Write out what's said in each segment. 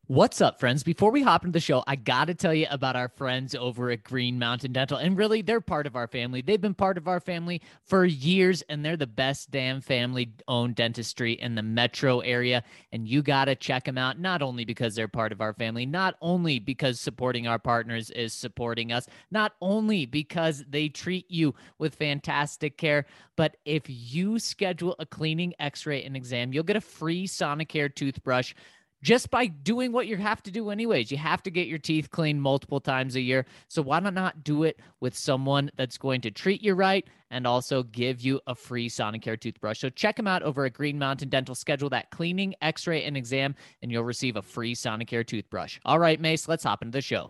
What's up, friends? Before we hop into the show, I got to tell you about our friends over at Green Mountain Dental. And really, they're part of our family. They've been part of our family for years, and they're the best damn family-owned dentistry in the metro area. And you got to check them out, not only because they're part of our family, not only because supporting our partners is supporting us, not only because they treat you with fantastic care, but if you schedule a cleaning, x-ray, and exam, you'll get a free Sonicare toothbrush just by doing what you have to do anyways. You have to get your teeth cleaned multiple times a year. So why not do it with someone that's going to treat you right and also give you a free Sonicare toothbrush? So check them out over at Green Mountain Dental. Schedule that cleaning, x-ray, and exam, and you'll receive a free Sonicare toothbrush. All right, Mace, let's hop into the show.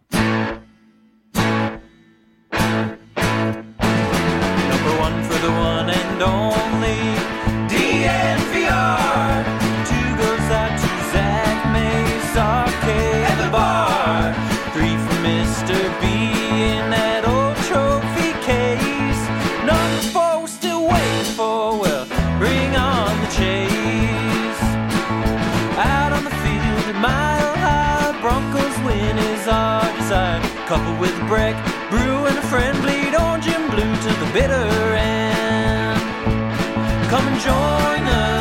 Number one for the one and only DNVR. Two goes out to Zach Mace, RK at the bar. Three for Mr. B in that old trophy case. Number four we're still waiting for, well, bring on the chase. Out on the field at Mile High, Broncos win is our desire. Coupled with Breck, Brew and a friend, bleed orange and blue to the bitter end. Come and join us,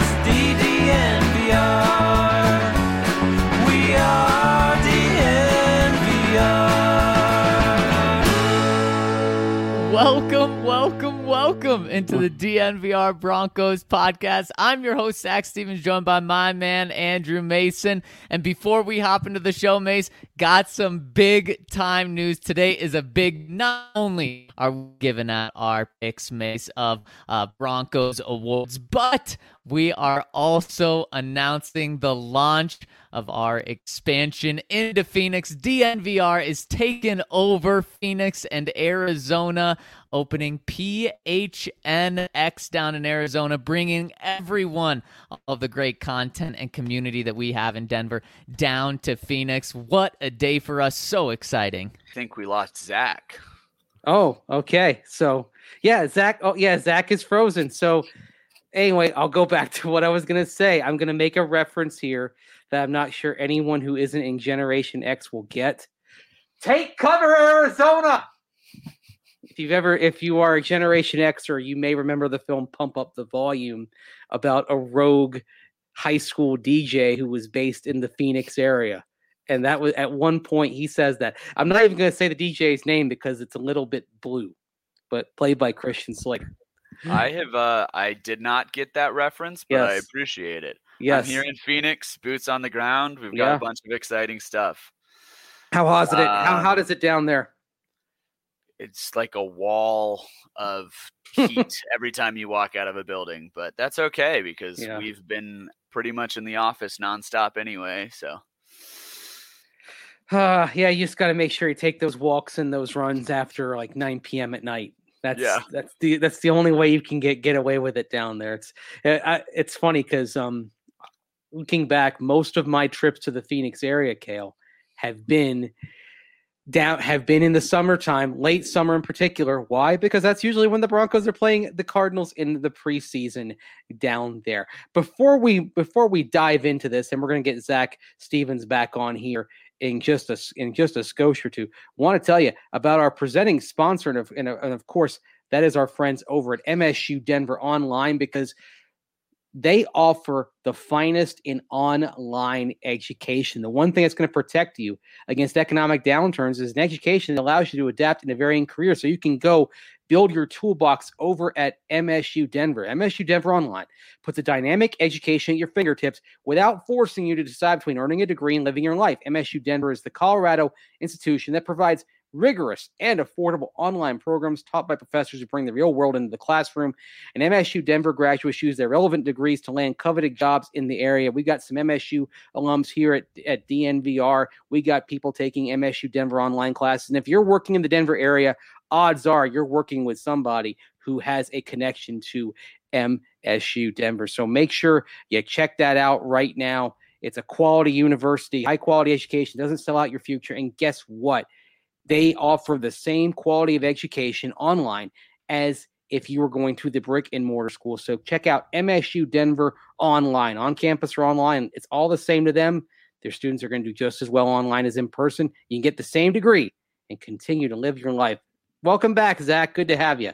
DDNVR. We are DNVR. Welcome into the DNVR Broncos podcast. I'm your host, Zach Stevens, joined by my man, Andrew Mason. And before we hop into the show, Mace, got some big time news. Today is a big, not only are we giving out our picks, Mace, of Broncos awards, but we are also announcing the launch of our expansion into Phoenix. DNVR is taking over Phoenix and Arizona, opening PHNX down in Arizona, bringing everyone of the great content and community that we have in Denver down to Phoenix. What a day for us. So exciting. I think we lost Zach. Oh, okay. So, yeah, Zach. Oh, yeah, Zach is frozen. So, anyway, I'll go back to what I was going to say. I'm going to make a reference here that I'm not sure anyone who isn't in Generation X will get. Take cover, Arizona! If you are a Generation Xer, you may remember the film Pump Up the Volume about a rogue high school DJ who was based in the Phoenix area. And that was at one point he says that. I'm not even going to say the DJ's name because it's a little bit blue, but played by Christian Slater. I did not get that reference, but Yes. I appreciate it. Yes. I'm here in Phoenix, boots on the ground. We've got a bunch of exciting stuff. How hot is it? How hot is it down there? It's like a wall of heat every time you walk out of a building, but that's okay because we've been pretty much in the office nonstop anyway. So, you just got to make sure you take those walks and those runs after like 9 p.m. at night. That's the only way you can get away with it down there. It's funny because looking back, most of my trips to the Phoenix area, Kale, have been in the summertime, late summer in particular. Why? Because that's usually when the Broncos are playing the Cardinals in the preseason down there. Before we dive into this, and we're going to get Zach Stevens back on here in just a skosh or two, want to tell you about our presenting sponsor, and of course that is our friends over at MSU Denver Online, because they offer the finest in online education. The one thing that's going to protect you against economic downturns is an education that allows you to adapt in a varying career. So you can go build your toolbox over at MSU Denver. MSU Denver Online puts a dynamic education at your fingertips without forcing you to decide between earning a degree and living your life. MSU Denver is the Colorado institution that provides rigorous and affordable online programs taught by professors who bring the real world into the classroom. And MSU Denver graduates use their relevant degrees to land coveted jobs in the area. We got some MSU alums here at DNVR. We got people taking MSU Denver online classes. And if you're working in the Denver area, odds are you're working with somebody who has a connection to MSU Denver. So make sure you check that out right now. It's a quality university, high quality education, doesn't sell out your future. And guess what? They offer the same quality of education online as if you were going to the brick and mortar school. So check out MSU Denver online, on campus or online. It's all the same to them. Their students are going to do just as well online as in person. You can get the same degree and continue to live your life. Welcome back, Zach. Good to have you.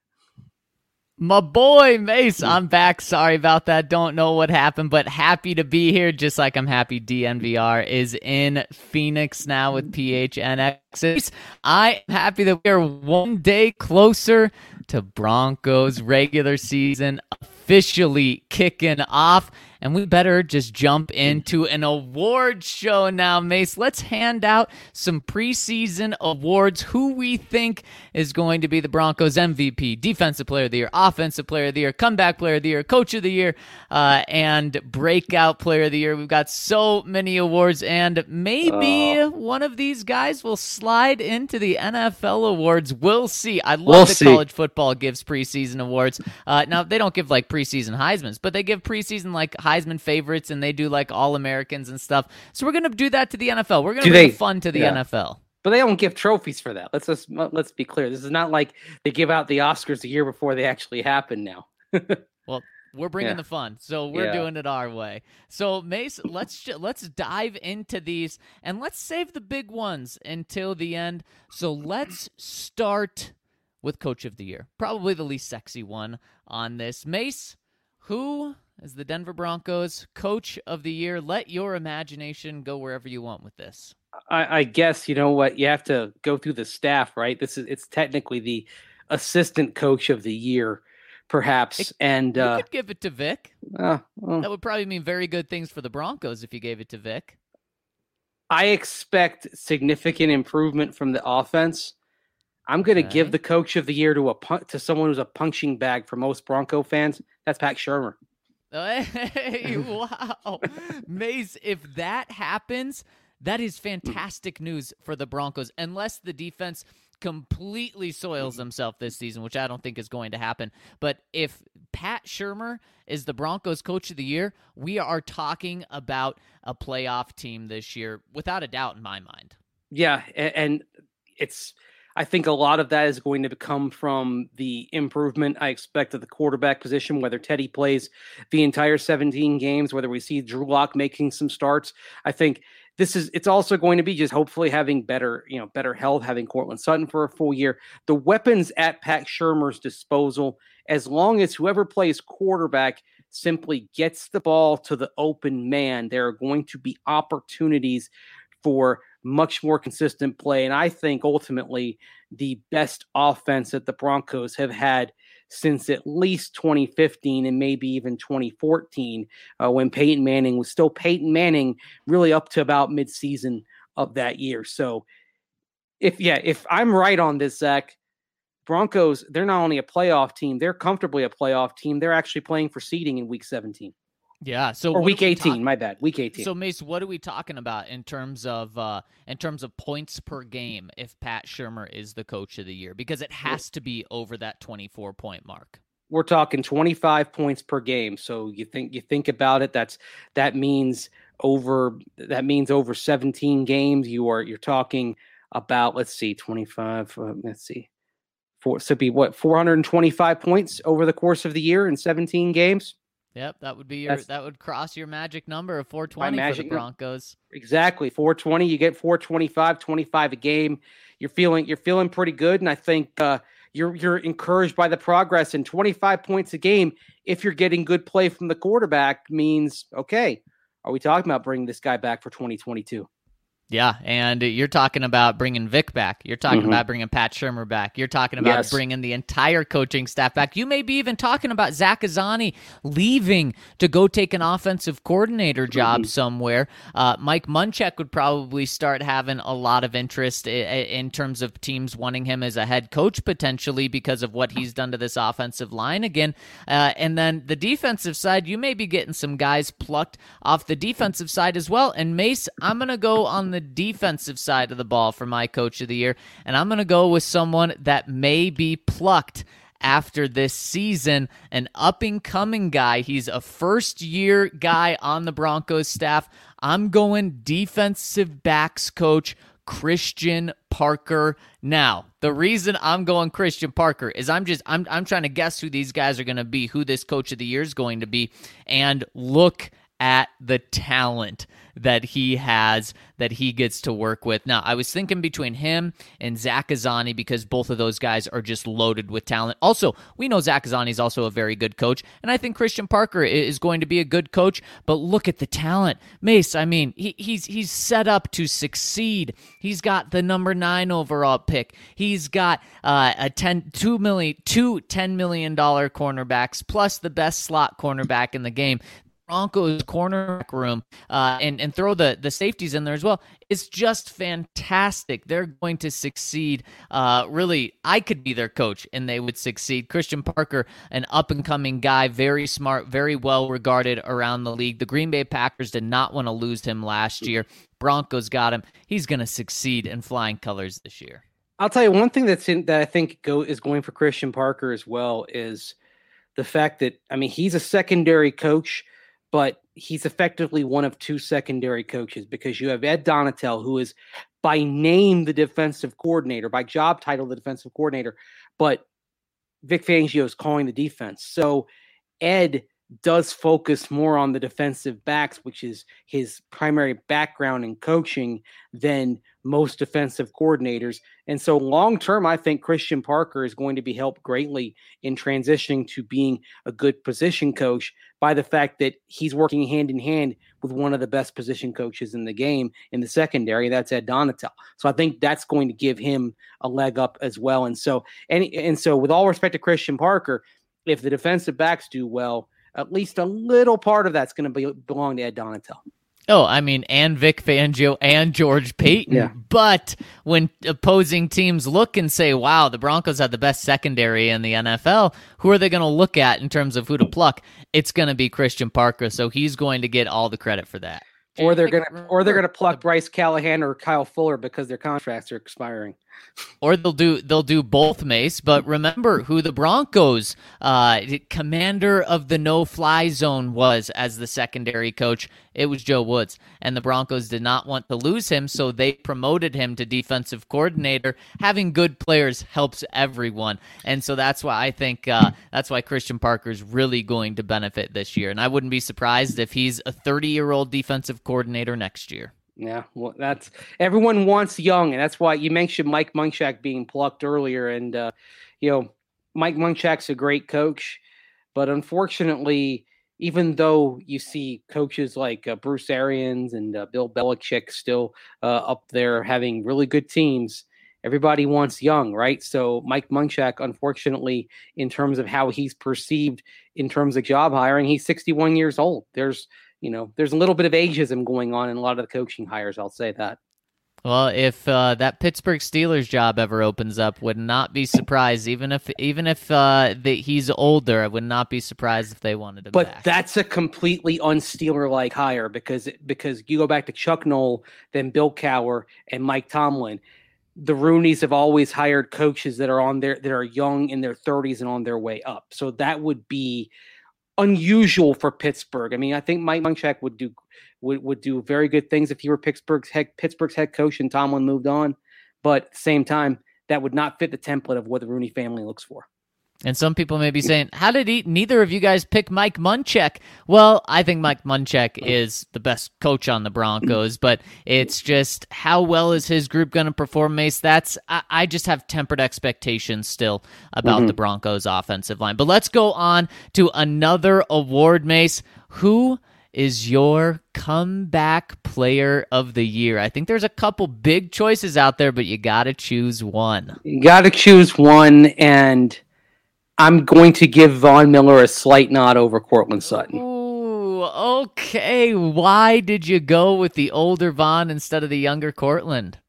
My boy, Mace, I'm back. Sorry about that. Don't know what happened, but happy to be here, just like I'm happy DNVR is in Phoenix now with PHNX. I am happy that we are one day closer to Broncos regular season officially kicking off. And we better just jump into an award show now, Mace. Let's hand out some preseason awards. Who we think is going to be the Broncos MVP, Defensive Player of the Year, Offensive Player of the Year, Comeback Player of the Year, Coach of the Year, and Breakout Player of the Year. We've got so many awards, and maybe one of these guys will slide into the NFL awards. We'll see. I love that college football gives preseason awards. Now, they don't give like preseason Heismans, but they give preseason like Heisman favorites, and they do like All-Americans and stuff. So we're going to do that to the NFL. We're going to bring fun to the NFL. But they don't give trophies for that. Let's be clear. This is not like they give out the Oscars a year before they actually happen now. Well, we're bringing the fun, so we're doing it our way. So, Mace, let's dive into these, and let's save the big ones until the end. So let's start with Coach of the Year, probably the least sexy one on this. Mace, who is the Denver Broncos Coach of the Year? Let your imagination go wherever you want with this. I guess, you know what, you have to go through the staff, right? It's technically the Assistant Coach of the Year, perhaps. And you could give it to Vic. That would probably mean very good things for the Broncos if you gave it to Vic. I expect significant improvement from the offense. I'm going to give the Coach of the Year to someone who's a punching bag for most Bronco fans. That's Pat Shurmur. Hey, wow. Mace, if that happens, that is fantastic news for the Broncos, unless the defense completely soils themselves this season, which I don't think is going to happen. But if Pat Shurmur is the Broncos Coach of the Year, we are talking about a playoff team this year, without a doubt in my mind. Yeah, and I think a lot of that is going to come from the improvement I expect at the quarterback position, whether Teddy plays the entire 17 games, whether we see Drew Lock making some starts. I think it's also going to be just hopefully having better health, having Courtland Sutton for a full year. The weapons at Pat Shurmur's disposal, as long as whoever plays quarterback simply gets the ball to the open man, there are going to be opportunities for much more consistent play. And I think ultimately the best offense that the Broncos have had since at least 2015 and maybe even 2014, when Peyton Manning was still Peyton Manning, really up to about midseason of that year. So if I'm right on this, Zach, Broncos, they're not only a playoff team, they're comfortably a playoff team. They're actually playing for seeding in week 17. Yeah, so or week 18, my bad. Week 18. So Mace, what are we talking about in terms of points per game if Pat Shurmur is the Coach of the Year? Because it has to be over that 24-point mark. We're talking 25 points per game. So you think about it, that means over 17 games. You're talking about, let's see, 25, so be what, 425 points over the course of the year in 17 games. Yep, that would cross your magic number of 420 for the Broncos. Exactly, 420. You get 425, 25 a game. You're feeling pretty good, and I think you're encouraged by the progress. And 25 points a game, if you're getting good play from the quarterback, means okay. Are we talking about bringing this guy back for 2022? Yeah, and you're talking about bringing Vic back. You're talking about bringing Pat Shurmur back. You're talking about bringing the entire coaching staff back. You may be even talking about Zach Azzanni leaving to go take an offensive coordinator job somewhere. Mike Munchak would probably start having a lot of interest in terms of teams wanting him as a head coach potentially because of what he's done to this offensive line again. And then the defensive side, you may be getting some guys plucked off the defensive side as well. And Mace, I'm going to go on the defensive side of the ball for my Coach of the Year, and I'm going to go with someone that may be plucked after this season, an up-and-coming guy. He's a first-year guy on the Broncos staff. I'm going defensive backs coach Christian Parker. Now, the reason I'm going Christian Parker is I'm trying to guess who these guys are going to be, who this Coach of the Year is going to be, and look at the talent. that he has that he gets to work with. Now, I was thinking between him and Zach Azzanni because both of those guys are just loaded with talent. Also, we know Zach Azzanni is also a very good coach, and I think Christian Parker is going to be a good coach, but look at the talent. Mace, I mean, he's set up to succeed. He's got the number 9 overall pick. He's got two $10 million cornerbacks plus the best slot cornerback in the game. Broncos cornerback room and throw the safeties in there as well. It's just fantastic. They're going to succeed. Really, I could be their coach and they would succeed. Christian Parker, an up-and-coming guy, very smart, very well-regarded around the league. The Green Bay Packers did not want to lose him last year. Broncos got him. He's going to succeed in flying colors this year. I'll tell you one thing that I think is going for Christian Parker as well is the fact that, I mean, he's a secondary coach, but he's effectively one of 2 secondary coaches because you have Ed Donatell, who is by name the defensive coordinator, by job title the defensive coordinator, but Vic Fangio is calling the defense. So Ed does focus more on the defensive backs, which is his primary background in coaching, than most defensive coordinators. And so long-term, I think Christian Parker is going to be helped greatly in transitioning to being a good position coach by the fact that he's working hand in hand with one of the best position coaches in the game in the secondary. That's Ed Donatell. So I think that's going to give him a leg up as well. And so with all respect to Christian Parker, if the defensive backs do well, at least a little part of that's going to belong to Ed Donatell. Oh, I mean, and Vic Fangio and George Paton. Yeah. But when opposing teams look and say, wow, the Broncos have the best secondary in the NFL, who are they going to look at in terms of who to pluck? It's going to be Christian Parker, so he's going to get all the credit for that. Or they're gonna pluck Bryce Callahan or Kyle Fuller because their contracts are expiring. Or they'll do both, Mace. But remember who the Broncos commander of the no-fly zone was as the secondary coach. It was Joe Woods, and the Broncos did not want to lose him, so they promoted him to defensive coordinator. Having good players helps everyone, and so that's why I think that's why Christian Parker is really going to benefit this year. And I wouldn't be surprised if he's a 30-year-old defensive coordinator next year. Yeah, well, that's everyone wants young, and that's why you mentioned Mike Munchak being plucked earlier. And Mike Munchak's a great coach, but unfortunately, even though you see coaches like Bruce Arians and Bill Belichick still up there having really good teams, everybody wants young, right? So Mike Munchak, unfortunately, in terms of how he's perceived in terms of job hiring, he's 61 years old. There's a little bit of ageism going on in a lot of the coaching hires. I'll say that. Well, if that Pittsburgh Steelers job ever opens up, would not be surprised. Even if he's older, I would not be surprised if they wanted him back. But that's a completely un-Steeler-like hire because you go back to Chuck Noll, then Bill Cowher, and Mike Tomlin. The Rooneys have always hired coaches that are young in their 30s and on their way up. So that would be unusual for Pittsburgh. I mean, I think Mike Munchak would do very good things if he were Pittsburgh's head coach and Tomlin moved on. But at the same time, that would not fit the template of what the Rooney family looks for. And some people may be saying, how did neither of you guys pick Mike Munchak? Well, I think Mike Munchak is the best coach on the Broncos, but it's just how well is his group going to perform, Mace? I just have tempered expectations still about the Broncos offensive line. But let's go on to another award, Mace. Who is your comeback player of the year? I think there's a couple big choices out there, but you got to choose one. You got to choose one, and I'm going to give Von Miller a slight nod over Courtland Sutton. Ooh, okay. Why did you go with the older Von instead of the younger Courtland?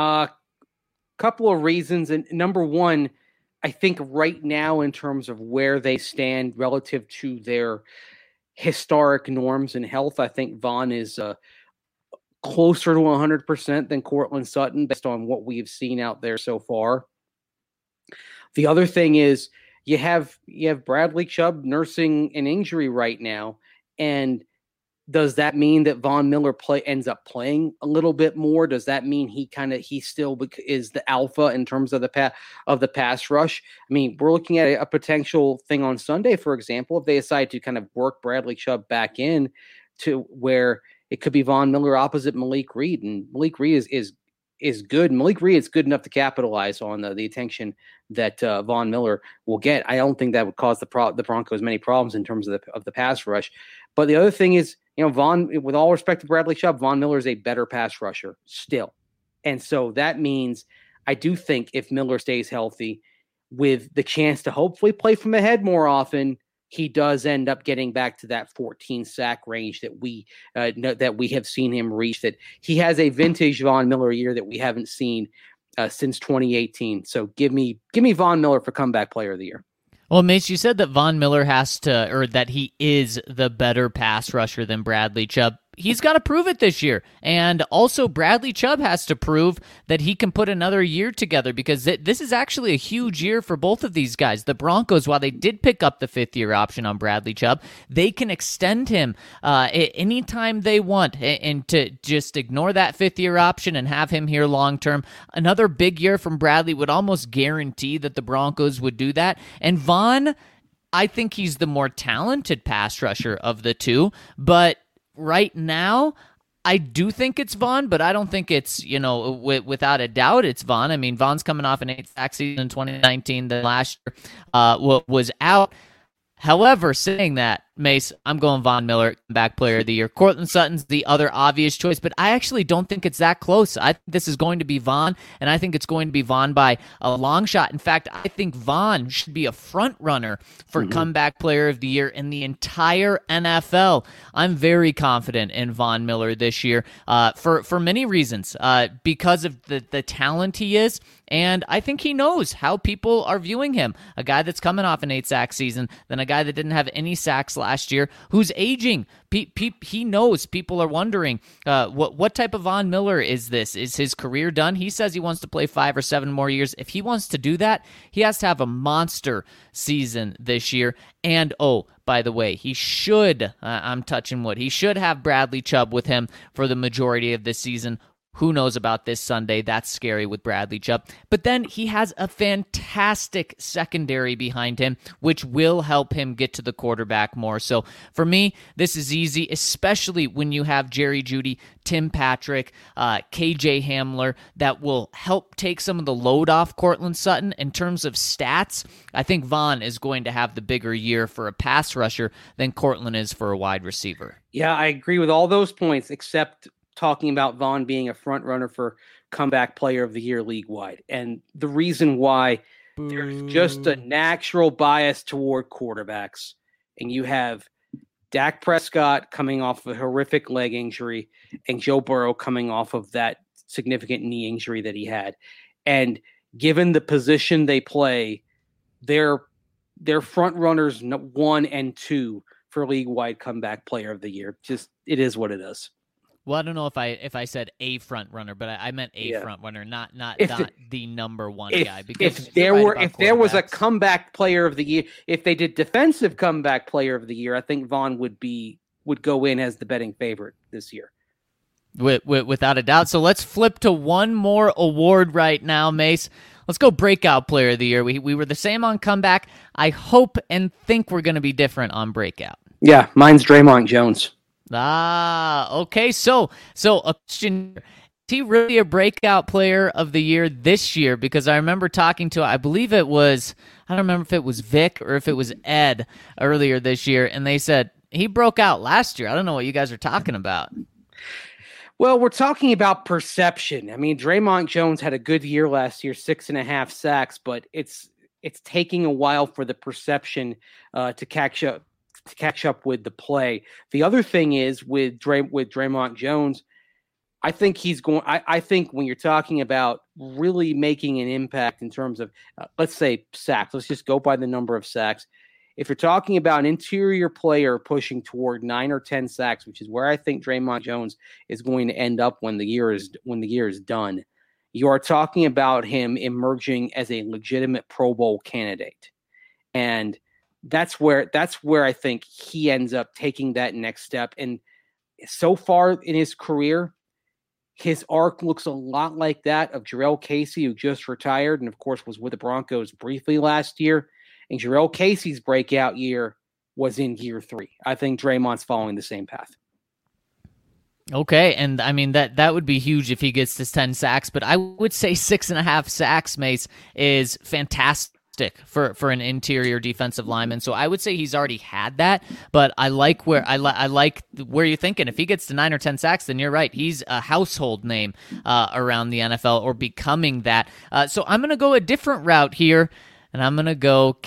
Couple of reasons. And number one, I think right now in terms of where they stand relative to their historic norms in health, I think Von is closer to 100% than Courtland Sutton based on what we've seen out there so far. The other thing is, You have Bradley Chubb nursing an injury right now, and does that mean that Von Miller ends up playing a little bit more? Does that mean he still is the alpha in terms of the pass rush? I mean, we're looking at a potential thing on Sunday, for example, if they decide to kind of work Bradley Chubb back in to where it could be Von Miller opposite Malik Reed, and Malik Reed is good. Malik Reed is good enough to capitalize on the attention that Von Miller will get. I don't think that would cause the Broncos many problems in terms of the pass rush. But the other thing is, Von, with all respect to Bradley Chubb, Von Miller is a better pass rusher still. And so that means I do think if Miller stays healthy with the chance to hopefully play from ahead more often, he does end up getting back to that 14 sack range that we have seen him reach, that he has a vintage Von Miller year that we haven't seen since 2018. So give me Von Miller for comeback player of the year. Well, Mace, you said that Von Miller that he is the better pass rusher than Bradley Chubb. He's got to prove it this year. And also Bradley Chubb has to prove that he can put another year together, because this is actually a huge year for both of these guys. The Broncos, while they did pick up the 5th-year option on Bradley Chubb, they can extend him anytime they want, and to just ignore that 5th-year option and have him here long-term. Another big year from Bradley would almost guarantee that the Broncos would do that. And Von, I think he's the more talented pass rusher of the two, but right now, I do think it's Von, but I don't think it's, without a doubt, it's Von. I mean, Von's coming off an 8-sack season in 2019 that last year was out. However, saying that, Mace, I'm going Von Miller, back player of the year. Courtland Sutton's the other obvious choice, but I actually don't think it's that close. I think this is going to be Von, and I think it's going to be Von by a long shot. In fact, I think Von should be a front runner for comeback player of the year in the entire NFL. I'm very confident in Von Miller this year for many reasons, because of the talent he is, and I think he knows how people are viewing him. A guy that's coming off an 8-sack season, then a guy that didn't have any sacks last year, who's aging. He knows people are wondering, what type of Von Miller is this? Is his career done? He says he wants to play 5 or 7 more years. If he wants to do that, he has to have a monster season this year. And, oh, by the way, he should, I'm touching wood, he should have Bradley Chubb with him for the majority of this season. Who knows about this Sunday? That's scary with Bradley Chubb. But then he has a fantastic secondary behind him, which will help him get to the quarterback more. So for me, this is easy, especially when you have Jerry Jeudy, Tim Patrick, KJ Hamler, that will help take some of the load off Courtland Sutton. In terms of stats, I think Von is going to have the bigger year for a pass rusher than Courtland is for a wide receiver. Yeah, I agree with all those points, except talking about Von being a front runner for comeback player of the year league-wide. And the reason why, there's just a natural bias toward quarterbacks. And you have Dak Prescott coming off a horrific leg injury and Joe Burrow coming off of that significant knee injury that he had. And given the position they play, they're front runners 1 and 2 for league-wide comeback player of the year. Just, it is what it is. Well, I don't know if I said a front runner, but I meant a front runner, not the number one guy. Because if there was a comeback player of the year, if they did defensive comeback player of the year, I think Von would go in as the betting favorite this year. Without a doubt. So let's flip to one more award right now, Mace. Let's go breakout player of the year. We were the same on comeback. I hope and think we're going to be different on breakout. Yeah, mine's Draymond Jones. Okay. So a question: is he really a breakout player of the year this year? Because I remember talking to, I believe it was, I don't remember if it was Vic or if it was Ed earlier this year, and they said he broke out last year. I don't know what you guys are talking about. Well, we're talking about perception. I mean, Draymond Jones had a good year last year, 6.5 sacks, but it's taking a while for the perception to catch up with the play. The other thing is with Draymond Jones, I think he's going. I think when you're talking about really making an impact in terms of, let's say, sacks, let's just go by the number of sacks. If you're talking about an interior player pushing toward 9 or 10 sacks, which is where I think Draymond Jones is going to end up when the year is done, you are talking about him emerging as a legitimate Pro Bowl candidate, and that's where I think he ends up taking that next step. And so far in his career, his arc looks a lot like that of Jurrell Casey, who just retired and, of course, was with the Broncos briefly last year. And Jurrell Casey's breakout year was in year 3. I think Draymond's following the same path. Okay, and I mean that would be huge if he gets this 10 sacks, but I would say 6.5 sacks, Mace, is fantastic for an interior defensive lineman. So I would say he's already had that, but I like where you're thinking. If he gets to 9 or 10 sacks, then you're right. He's a household name around the NFL, or becoming that. So I'm going to go a different route here. And I'm going to go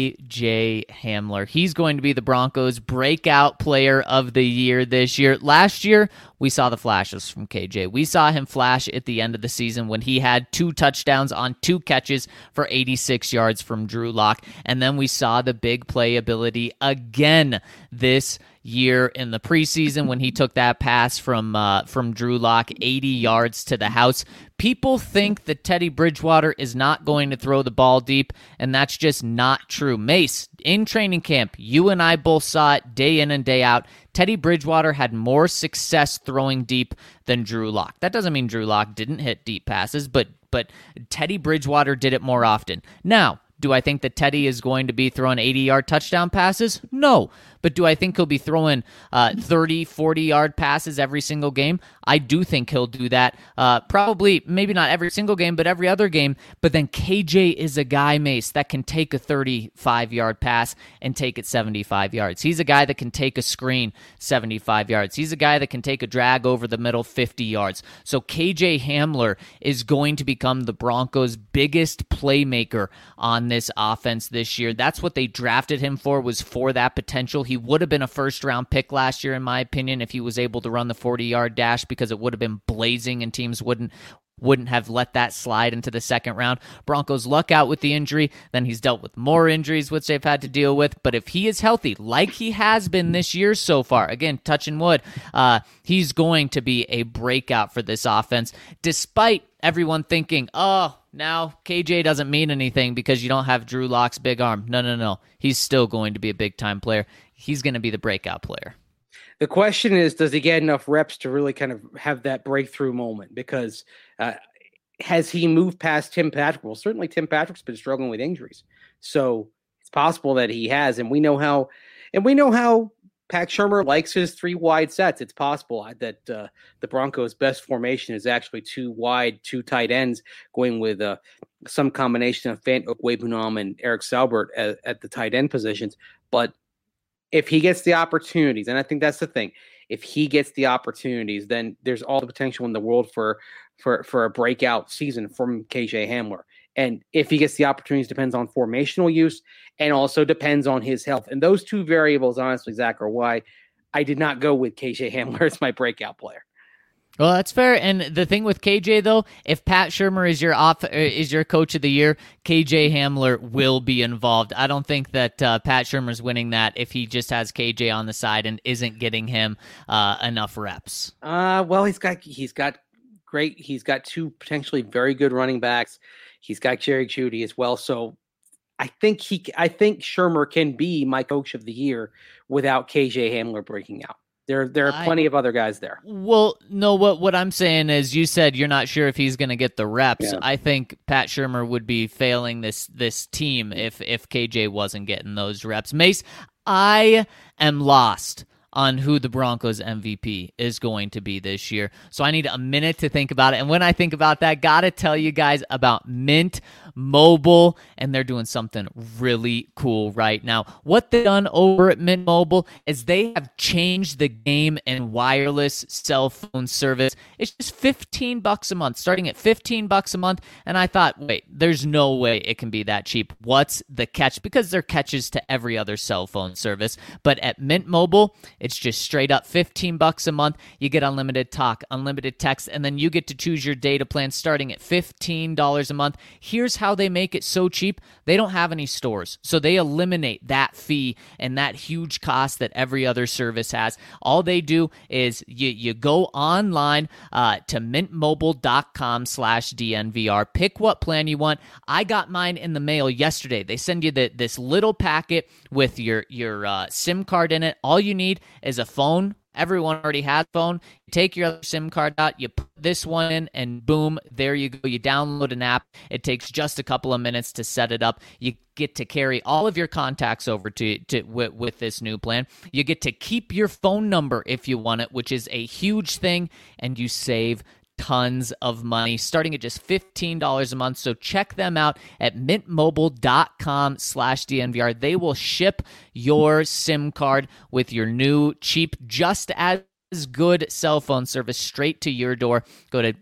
KJ Hamler. He's going to be the Broncos' breakout player of the year this year. Last year, we saw the flashes from KJ. We saw him flash at the end of the season when he had 2 touchdowns on 2 catches for 86 yards from Drew Lock. And then we saw the big play ability again this year in the preseason when he took that pass from Drew Lock, 80 yards to the house. People think that Teddy Bridgewater is not going to throw the ball deep, and that's just not true. Mace, in training camp, you and I both saw it day in and day out. Teddy Bridgewater had more success throwing deep than Drew Lock. That doesn't mean Drew Lock didn't hit deep passes, but Teddy Bridgewater did it more often. Now, do I think that Teddy is going to be throwing 80-yard touchdown passes? No. But do I think he'll be throwing 30, 40-yard passes every single game? I do think he'll do that. Probably, maybe not every single game, but every other game. But then KJ is a guy, Mace, that can take a 35-yard pass and take it 75 yards. He's a guy that can take a screen 75 yards. He's a guy that can take a drag over the middle 50 yards. So KJ Hamler is going to become the Broncos' biggest playmaker on this offense this year. That's what they drafted him for, was for that potential. He would have been a first-round pick last year, in my opinion, if he was able to run the 40-yard dash, because it would have been blazing and teams wouldn't have let that slide into the second round. Broncos luck out with the injury. Then he's dealt with more injuries, which they've had to deal with. But if he is healthy, like he has been this year so far, again, touching wood, he's going to be a breakout for this offense, despite everyone thinking, now KJ doesn't mean anything because you don't have Drew Lock's big arm. No. He's still going to be a big-time player. He's going to be the breakout player. The question is, does he get enough reps to really kind of have that breakthrough moment? Because has he moved past Tim Patrick? Well, certainly Tim Patrick's been struggling with injuries. So it's possible that he has. And we know how Pat Shurmur likes his 3 wide sets. It's possible that the Broncos' best formation is actually 2 wide, 2 tight ends, going with some combination of Fant Okwebunam and Eric Saubert at the tight end positions. But if he gets the opportunities, and I think that's the thing, if he gets the opportunities, then there's all the potential in the world for a breakout season from KJ Hamler. And if he gets the opportunities, depends on formational use and also depends on his health. And those 2 variables, honestly, Zach, are why I did not go with KJ Hamler as my breakout player. Well, that's fair. And the thing with KJ, though, if Pat Shurmur is your coach of the year, KJ Hamler will be involved. I don't think that Pat Shurmur's winning that if he just has KJ on the side and isn't getting him enough reps. Well, he's got 2 potentially very good running backs. He's got Jerry Jeudy as well. So I think Shurmur can be my coach of the year without KJ Hamler breaking out. There are plenty of other guys there. Well, no, what I'm saying is, you said you're not sure if he's going to get the reps. Yeah. I think Pat Shurmur would be failing this team if KJ wasn't getting those reps. Mace, I am lost on who the Broncos MVP is going to be this year. So I need a minute to think about it. And when I think about that, gotta tell you guys about Mint Mobile, and they're doing something really cool right now. What they've done over at Mint Mobile is they have changed the game in wireless cell phone service. It's just $15 a month, starting at $15 a month. And I thought, wait, there's no way it can be that cheap. What's the catch? Because there are catches to every other cell phone service. But at Mint Mobile, it's just straight up $15 a month. You get unlimited talk, unlimited text, and then you get to choose your data plan starting at $15 a month. Here's how they make it so cheap. They don't have any stores, so they eliminate that fee and that huge cost that every other service has. All they do is you go online to mintmobile.com/DNVR. Pick what plan you want. I got mine in the mail yesterday. They send you this little packet with your SIM card in it. All you need is a phone everyone already has a phone. You take your other SIM card out, you put this one in, and boom, there you go. You download an app. It takes just a couple of minutes to set it up. You get to carry all of your contacts over with this new plan. You get to keep your phone number if you want it, which is a huge thing, and you save tons of money, starting at just $15 a month. So check them out at mintmobile.com/DNVR. They will ship your SIM card with your new cheap, just as good cell phone service straight to your door. Go to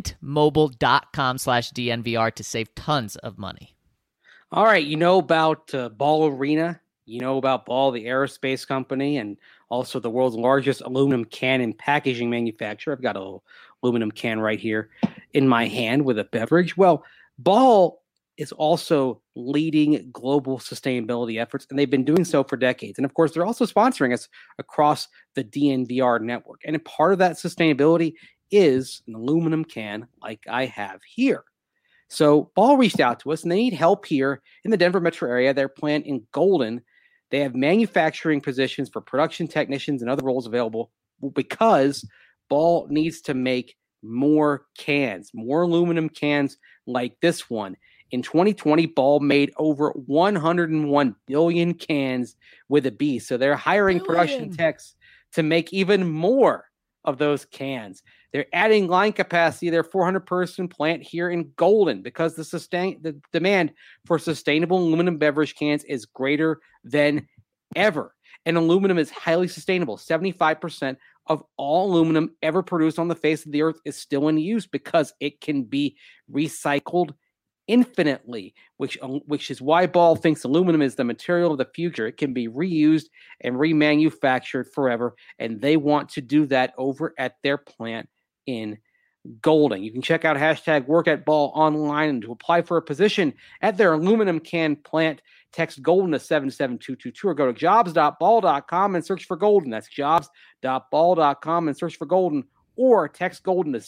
mintmobile.com/DNVR to save tons of money. All right. You know about Ball Arena. You know about Ball, the aerospace company, and also the world's largest aluminum can and packaging manufacturer. I've got a little aluminum can right here in my hand with a beverage. Well, Ball is also leading global sustainability efforts, and they've been doing so for decades. And of course, they're also sponsoring us across the DNVR network. And a part of that sustainability is an aluminum can like I have here. So Ball reached out to us, and they need help here in the Denver metro area. Their plant in Golden, they have manufacturing positions for production technicians and other roles available because Ball needs to make more cans, more aluminum cans like this one. In 2020, Ball made over 101 billion cans with a B. So they're hiring production techs to make even more of those cans. They're adding line capacity. Their 400-person plant here in Golden because the demand for sustainable aluminum beverage cans is greater than ever. And aluminum is highly sustainable. 75% of all aluminum ever produced on the face of the earth is still in use because it can be recycled infinitely, which is why Ball thinks aluminum is the material of the future. It can be reused and remanufactured forever, and they want to do that over at their plant in Golden. You can check out #WorkAtBall online, and to apply for a position at their aluminum can plant, text Golden to 77222 or go to jobs.ball.com and search for Golden. That's jobs.ball.com and search for Golden, or text Golden to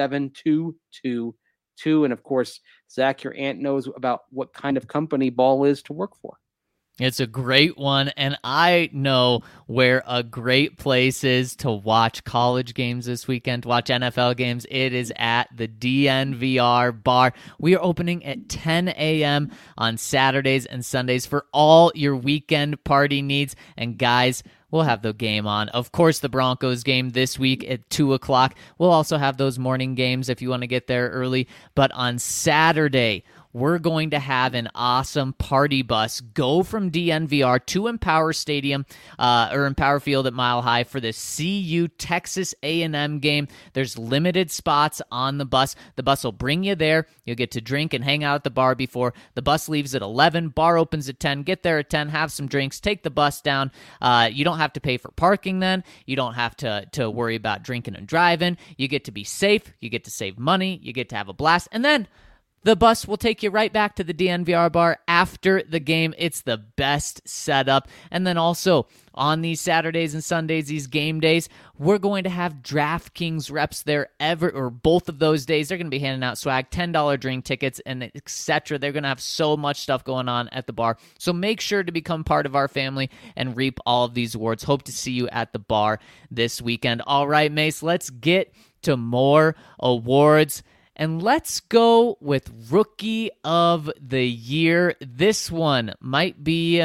77222. And of course, Zach, your aunt knows about what kind of company Ball is to work for. It's a great one, and I know where a great place is to watch college games this weekend, to watch NFL games. It is at the DNVR bar. We are opening at 10 a.m. on Saturdays and Sundays for all your weekend party needs. And guys, we'll have the game on. Of course, the Broncos game this week at 2 o'clock. We'll also have those morning games if you want to get there early. But on Saturday, we're going to have an awesome party bus go from DNVR to Empower Stadium or Empower Field at Mile High for the CU Texas A&M game. There's limited spots on the bus. The bus will bring you there. You'll get to drink and hang out at the bar before. The bus leaves at 11. Bar opens at 10. Get there at 10. Have some drinks. Take the bus down. You don't have to pay for parking then. You don't have to worry about drinking and driving. You get to be safe. You get to save money. You get to have a blast. And then the bus will take you right back to the DNVR bar after the game. It's the best setup. And then also on these Saturdays and Sundays, these game days, we're going to have DraftKings reps there both of those days. They're going to be handing out swag, $10 drink tickets, and etc. They're going to have so much stuff going on at the bar. So make sure to become part of our family and reap all of these awards. Hope to see you at the bar this weekend. All right, Mace, let's get to more awards. And let's go with Rookie of the Year. This one might be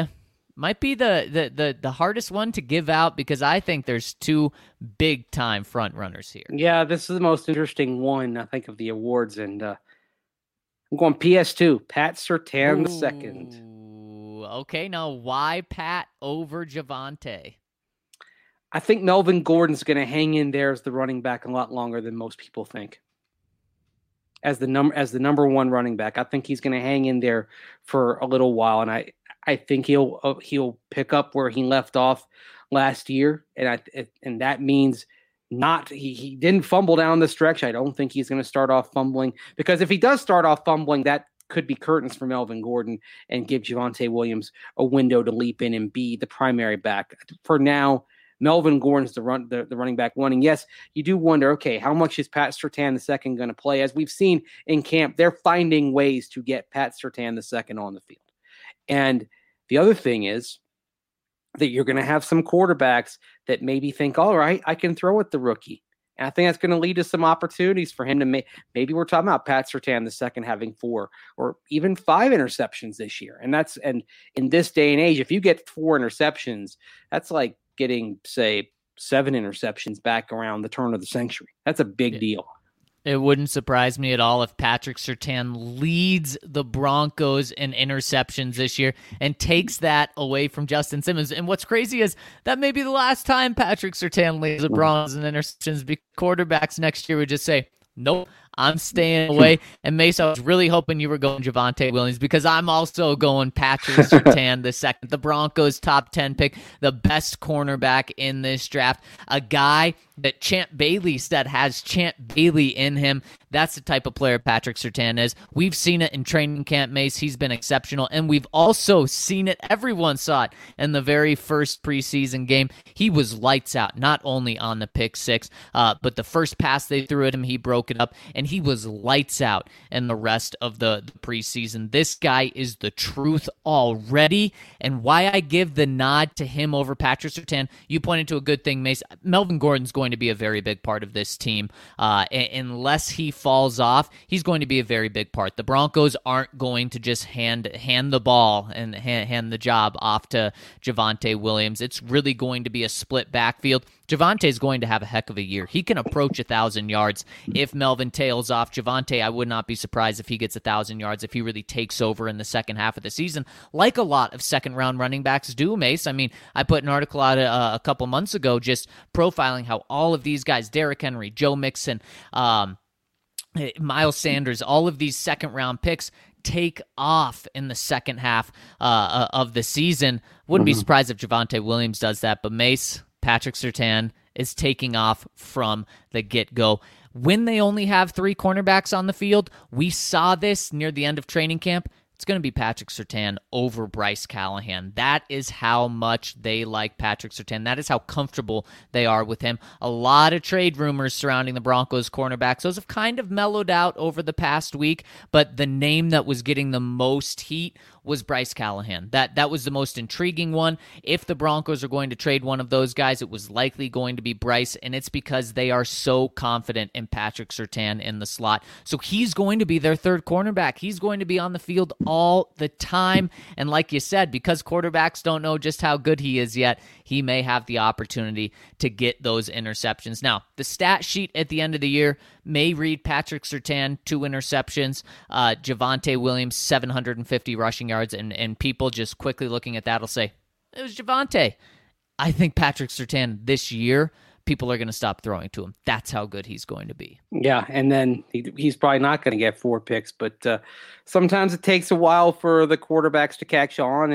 the hardest one to give out because I think there's two big time front runners here. Yeah, this is the most interesting one, I think, of the awards, and I'm going PS2, Pat Surtain II. Okay, now why Pat over Javonte? I think Melvin Gordon's going to hang in there as the running back a lot longer than most people think. As the number one running back, I think he's going to hang in there for a little while, and I think he'll pick up where he left off last year, and that means he didn't fumble down the stretch. I don't think he's going to start off fumbling, because if he does start off fumbling, that could be curtains for Melvin Gordon and give Javonte Williams a window to leap in and be the primary back. For now, Melvin Gordon's the running back one. And yes, you do wonder, okay, how much is Pat Surtain II going to play? As we've seen in camp, they're finding ways to get Pat Surtain II on the field. And the other thing is, that you're going to have some quarterbacks that maybe think, all right, I can throw at the rookie. And I think that's going to lead to some opportunities for him to maybe we're talking about Pat Surtain the second having 4 or even 5 interceptions this year. And in this day and age, if you get 4 interceptions, that's like getting, say, 7 interceptions back around the turn of the century. That's a big deal. It wouldn't surprise me at all if Patrick Surtain leads the Broncos in interceptions this year and takes that away from Justin Simmons. And what's crazy is that may be the last time Patrick Surtain leads the Broncos in interceptions, because quarterbacks next year would just say, nope, I'm staying away. And Mace, I was really hoping you were going Javonte Williams, because I'm also going Patrick Surtain the second. The Broncos' top 10 pick, the best cornerback in this draft, a guy that Champ Bailey said has Champ Bailey in him. That's the type of player Patrick Surtain is. We've seen it in training camp, Mace. He's been exceptional. And we've also seen it, everyone saw it in the very first preseason game. He was lights out, not only on the pick 6, but the first pass they threw at him, he broke it up. And he was lights out in the rest of the preseason. This guy is the truth already. And why I give the nod to him over Patrick Surtain, you pointed to a good thing, Mace. Melvin Gordon's going to be a very big part of this team. Unless he falls off, he's going to be a very big part. The Broncos aren't going to just hand the ball and hand the job off to Javonte Williams. It's really going to be a split backfield. Javonte is going to have a heck of a year. He can approach 1,000 yards if Melvin tails off. Javonte, I would not be surprised if he gets 1,000 yards, if he really takes over in the second half of the season, like a lot of second-round running backs do, Mace. I mean, I put an article out a couple months ago just profiling how all of these guys, Derrick Henry, Joe Mixon, Miles Sanders, all of these second-round picks take off in the second half of the season. Wouldn't be surprised if Javonte Williams does that, but Mace, Patrick Surtain is taking off from the get-go. When they only have 3 cornerbacks on the field, we saw this near the end of training camp. It's going to be Patrick Surtain over Bryce Callahan. That is how much they like Patrick Surtain. That is how comfortable they are with him. A lot of trade rumors surrounding the Broncos cornerbacks. Those have kind of mellowed out over the past week, but the name that was getting the most heat was Bryce Callahan. That was the most intriguing one. If the Broncos are going to trade one of those guys, it was likely going to be Bryce, and it's because they are so confident in Patrick Surtain in the slot. So he's going to be their third cornerback. He's going to be on the field all the time, and like you said, because quarterbacks don't know just how good he is yet, he may have the opportunity to get those interceptions. Now, the stat sheet at the end of the year may read Patrick Surtain 2 interceptions, Javonte Williams 750 rushing yards, and people just quickly looking at that will say, it was Javonte. I think Patrick Surtain this year, people are going to stop throwing to him. That's how good he's going to be. Yeah, and then he's probably not going to get 4 picks, but sometimes it takes a while for the quarterbacks to catch on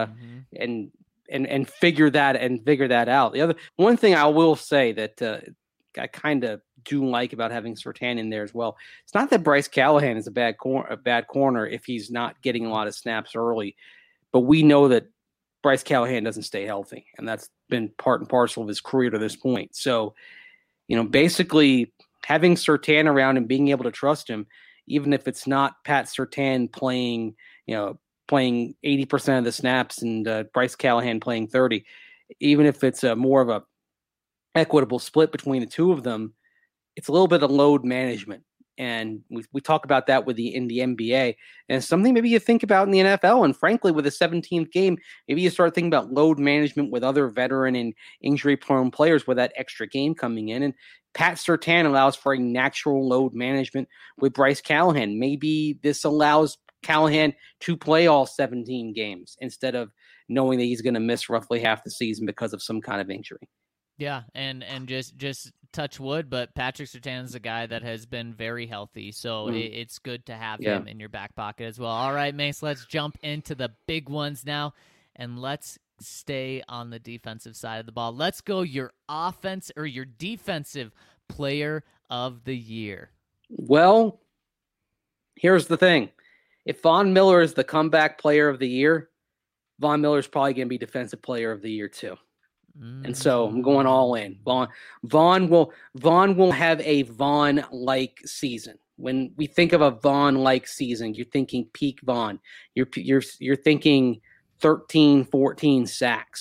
and figure that out. The other one thing I will say that I kind of do like about having Surtain in there as well. It's not that Bryce Callahan is a bad corner if he's not getting a lot of snaps early, but we know that Bryce Callahan doesn't stay healthy, and that's been part and parcel of his career to this point. So, basically having Surtain around and being able to trust him, even if it's not Pat Surtain playing 80% of the snaps and Bryce Callahan playing 30, even if it's more of a equitable split between the two of them, it's a little bit of load management. And we talk about that in the NBA, and it's something maybe you think about in the NFL. And frankly, with the 17th game, maybe you start thinking about load management with other veteran and injury-prone players with that extra game coming in. And Pat Surtain allows for a natural load management with Bryce Callahan. Maybe this allows Callahan to play all 17 games instead of knowing that he's going to miss roughly half the season because of some kind of injury. Yeah, and just touch wood, but Patrick Surtain is a guy that has been very healthy, so it's good to have him in your back pocket as well. All right, Mace, let's jump into the big ones now, and let's stay on the defensive side of the ball. Let's go your offense or your defensive player of the year. Well, here's the thing. If Von Miller is the comeback player of the year, Von Miller is probably going to be defensive player of the year too. And so I'm going all in. Vaughn will have a Vaughn-like season. When we think of a Vaughn-like season, you're thinking peak Vaughn. You're thinking 13, 14 sacks,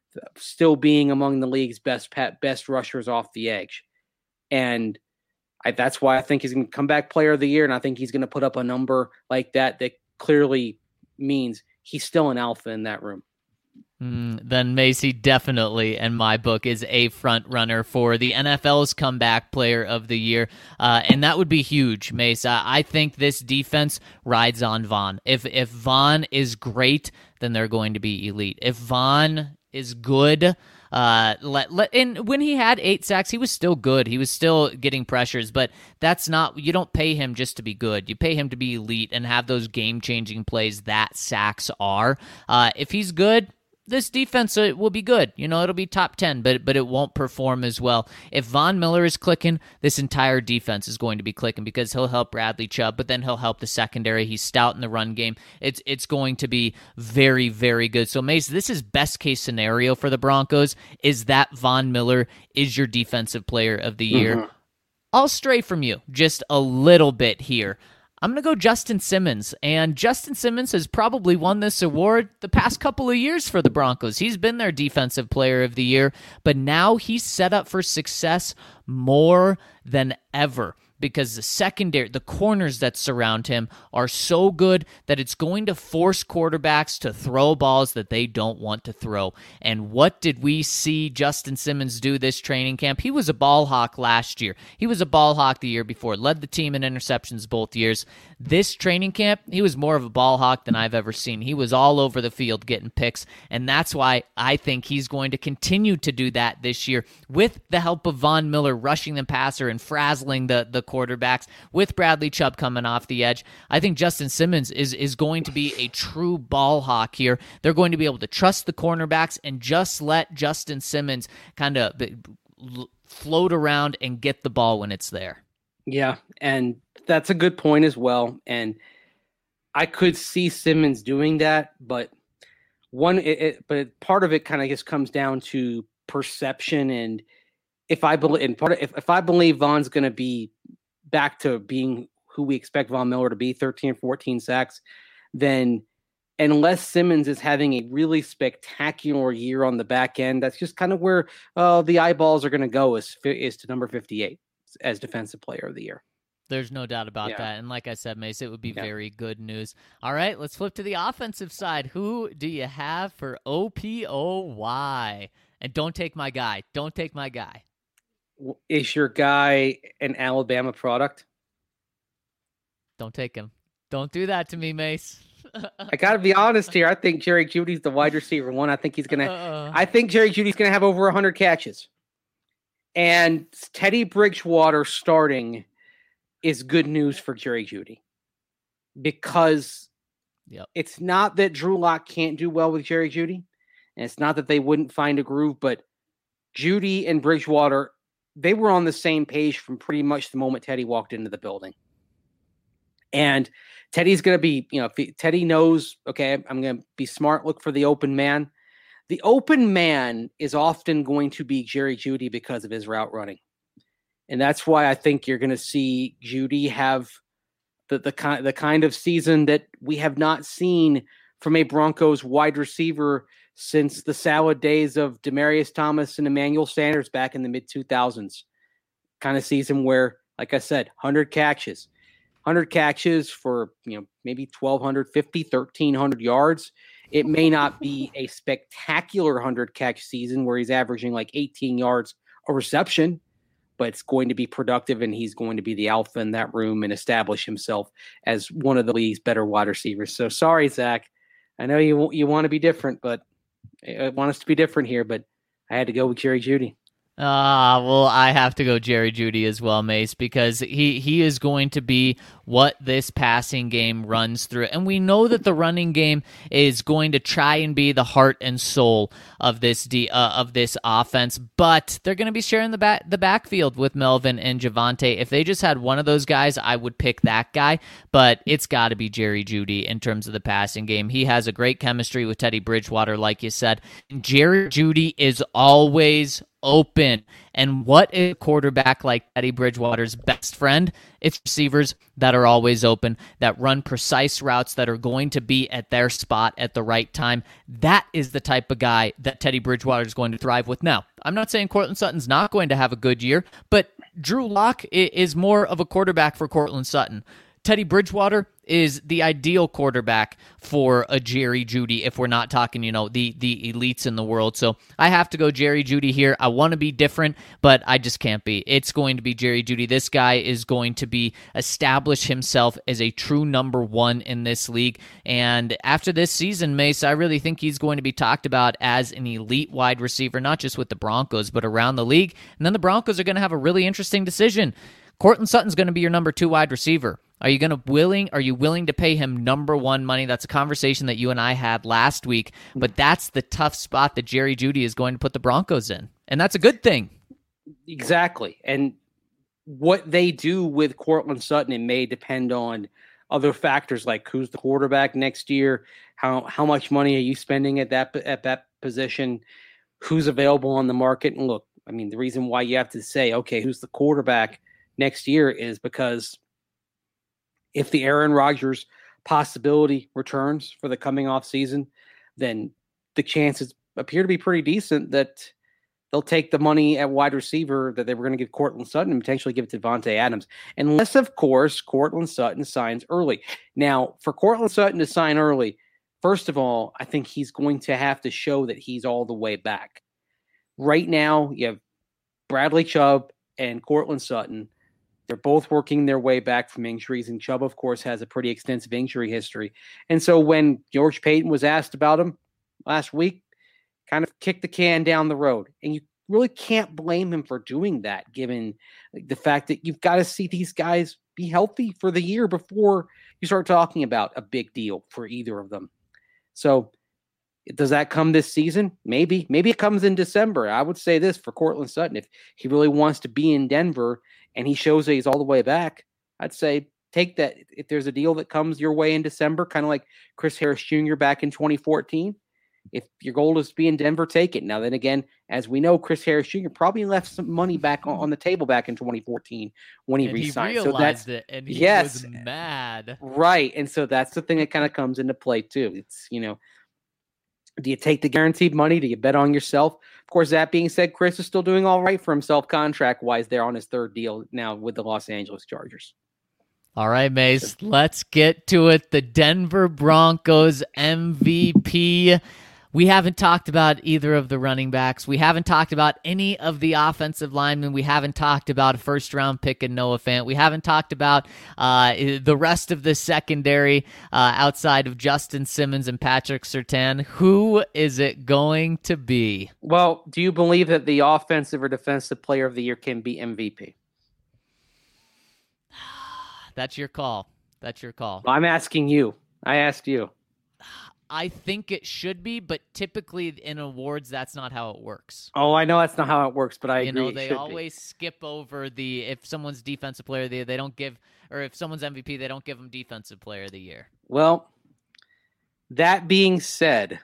still being among the league's best rushers off the edge. And that's why I think he's going to come back player of the year. And I think he's going to put up a number like that clearly means he's still an alpha in that room. Then Macy definitely, in my book, is a front runner for the NFL's comeback player of the year. And that would be huge, Mace. I think this defense rides on Von. If Von is great, then they're going to be elite. If Von is good, and when he had 8 sacks, he was still good. He was still getting pressures, but that's not, you don't pay him just to be good. You pay him to be elite and have those game-changing plays that sacks are. If he's good, this defense will be good. It'll be top 10, but it won't perform as well. If Von Miller is clicking, this entire defense is going to be clicking because he'll help Bradley Chubb, but then he'll help the secondary. He's stout in the run game. It's going to be very, very good. So, Mace, this is best case scenario for the Broncos, is that Von Miller is your defensive player of the year. Mm-hmm. I'll stray from you just a little bit here. I'm going to go Justin Simmons, and Justin Simmons has probably won this award the past couple of years for the Broncos. He's been their defensive player of the year, but now he's set up for success more than ever because the secondary, the corners that surround him are so good that it's going to force quarterbacks to throw balls that they don't want to throw. And what did we see Justin Simmons do this training camp? He was a ball hawk last year. He was a ball hawk the year before, led the team in interceptions both years. This training camp, he was more of a ball hawk than I've ever seen. He was all over the field getting picks, and that's why I think he's going to continue to do that this year with the help of Von Miller rushing the passer and frazzling the quarterbacks, with Bradley Chubb coming off the edge. I think Justin Simmons is going to be a true ball hawk here. They're going to be able to trust the cornerbacks and just let Justin Simmons kind of float around and get the ball when it's there. Yeah, and that's a good point as well. And I could see Simmons doing that, but part of it kind of just comes down to perception. And if I believe Von's going to be back to being who we expect Von Miller to be, 13 or 14 sacks, then unless Simmons is having a really spectacular year on the back end, that's just kind of where the eyeballs are going to go is to number 58 as defensive player of the year. There's no doubt about that. And like I said, Mace, it would be very good news. All right, let's flip to the offensive side. Who do you have for OPOY? And don't take my guy. Don't take my guy. Is your guy an Alabama product? Don't take him. Don't do that to me, Mace. I got to be honest here. I think Jerry Jeudy's the wide receiver one. I think Jerry Jeudy's going to have over 100 catches. And Teddy Bridgewater starting is good news for Jerry Jeudy because it's not that Drew Lock can't do well with Jerry Jeudy, and it's not that they wouldn't find a groove, but Jeudy and Bridgewater, they were on the same page from pretty much the moment Teddy walked into the building. And Teddy's going to be, Teddy knows, okay, I'm going to be smart, look for the open man. The open man is often going to be Jerry Jeudy because of his route running. And that's why I think you're going to see Jeudy have the kind of season that we have not seen from a Broncos wide receiver since the salad days of Demaryius Thomas and Emmanuel Sanders back in the mid-2000s. Kind of season where, like I said, 100 catches for maybe 1,250, 1,300 yards. It may not be a spectacular 100-catch season where he's averaging like 18 yards a reception, but it's going to be productive, and he's going to be the alpha in that room and establish himself as one of the league's better wide receivers. So sorry, Zach. I know you want to be different, but I want us to be different here, but I had to go with Jerry Jeudy. Well, I have to go Jerry Jeudy as well, Mace, because he is going to be what this passing game runs through. And we know that the running game is going to try and be the heart and soul of this offense, but they're going to be sharing the backfield with Melvin and Javonte. If they just had one of those guys, I would pick that guy, but it's got to be Jerry Jeudy in terms of the passing game. He has a great chemistry with Teddy Bridgewater, like you said. Jerry Jeudy is always open. And what is a quarterback like Teddy Bridgewater's best friend? It's receivers that are always open, that run precise routes, that are going to be at their spot at the right time. That is the type of guy that Teddy Bridgewater is going to thrive with. Now, I'm not saying Courtland Sutton's not going to have a good year, but Drew Lock is more of a quarterback for Courtland Sutton. Teddy Bridgewater is the ideal quarterback for a Jerry Jeudy if we're not talking, the elites in the world. So I have to go Jerry Jeudy here. I want to be different, but I just can't be. It's going to be Jerry Jeudy. This guy is going to establish himself as a true number one in this league. And after this season, Mace, I really think he's going to be talked about as an elite wide receiver, not just with the Broncos, but around the league. And then the Broncos are going to have a really interesting decision. Courtland Sutton's going to be your number 2 wide receiver. Are you willing to pay him number 1 money? That's a conversation that you and I had last week, but that's the tough spot that Jerry Jeudy is going to put the Broncos in, and that's a good thing. Exactly. And what they do with Courtland Sutton, it may depend on other factors like who's the quarterback next year, how much money are you spending at that position, who's available on the market. And look, I mean, the reason why you have to say, okay, who's the quarterback next year is because if the Aaron Rodgers possibility returns for the coming off season, then the chances appear to be pretty decent that they'll take the money at wide receiver that they were going to give Courtland Sutton and potentially give it to Davante Adams. Unless, of course, Courtland Sutton signs early. Now, for Courtland Sutton to sign early, first of all, I think he's going to have to show that he's all the way back. Right now, you have Bradley Chubb and Courtland Sutton. They're both working their way back from injuries, and Chubb, of course, has a pretty extensive injury history. And so when George Paton was asked about him last week, kind of kicked the can down the road. And you really can't blame him for doing that, given the fact that you've got to see these guys be healthy for the year before you start talking about a big deal for either of them. So does that come this season? Maybe. Maybe it comes in December. I would say this for Courtland Sutton. If he really wants to be in Denver and he shows that he's all the way back, I'd say take that. If there's a deal that comes your way in December, kind of like Chris Harris Jr. back in 2014, if your goal is to be in Denver, take it. Now, then again, as we know, Chris Harris Jr. probably left some money back on the table back in 2014 when he re-signed. He realized it, and he was mad. Right, and so that's the thing that kind of comes into play, too. It's, do you take the guaranteed money? Do you bet on yourself? Of course, that being said, Chris is still doing all right for himself contract-wise there on his 3rd deal now with the Los Angeles Chargers. All right, Mace, let's get to it. The Denver Broncos MVP. We haven't talked about either of the running backs. We haven't talked about any of the offensive linemen. We haven't talked about a first-round pick in Noah Fant. We haven't talked about the rest of the secondary outside of Justin Simmons and Patrick Surtain. Who is it going to be? Well, do you believe that the offensive or defensive player of the year can be MVP? That's your call. That's your call. Well, I'm asking you. I asked you. I think it should be, but typically in awards, that's not how it works. Oh, I know that's not how it works, but I agree. They always skip over if someone's defensive player of the year, they don't give, or if someone's MVP, they don't give them defensive player of the year. Well, that being said,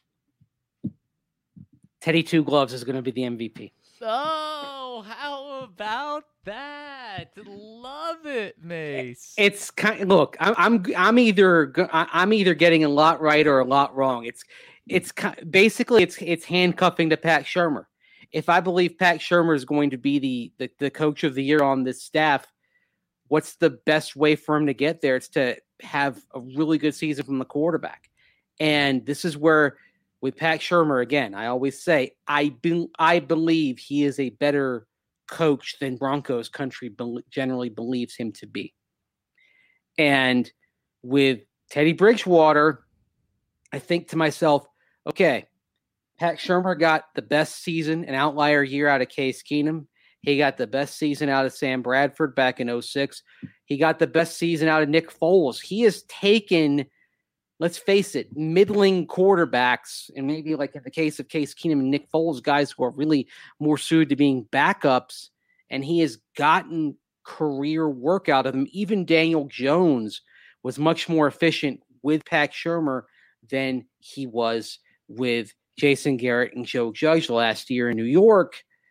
Teddy Two Gloves is going to be the MVP. Oh, how about that? Love it, Mace. It's look. I'm either getting a lot right or a lot wrong. It's basically it's handcuffing to Pat Shurmur. If I believe Pat Shurmur is going to be the coach of the year on this staff, what's the best way for him to get there? It's to have a really good season from the quarterback, and this is where. With Pat Shurmur, again, I always say I believe he is a better coach than Broncos country generally believes him to be. And with Teddy Bridgewater, I think to myself, okay, Pat Shurmur got the best season, an outlier year out of Case Keenum. He got the best season out of Sam Bradford back in 2006. He got the best season out of Nick Foles. He has taken... Let's face it, middling quarterbacks, and maybe like in the case of Case Keenum and Nick Foles, guys who are really more suited to being backups, and he has gotten career work out of them. Even Daniel Jones was much more efficient with Pat Shurmur than he was with Jason Garrett and Joe Judge last year in New York.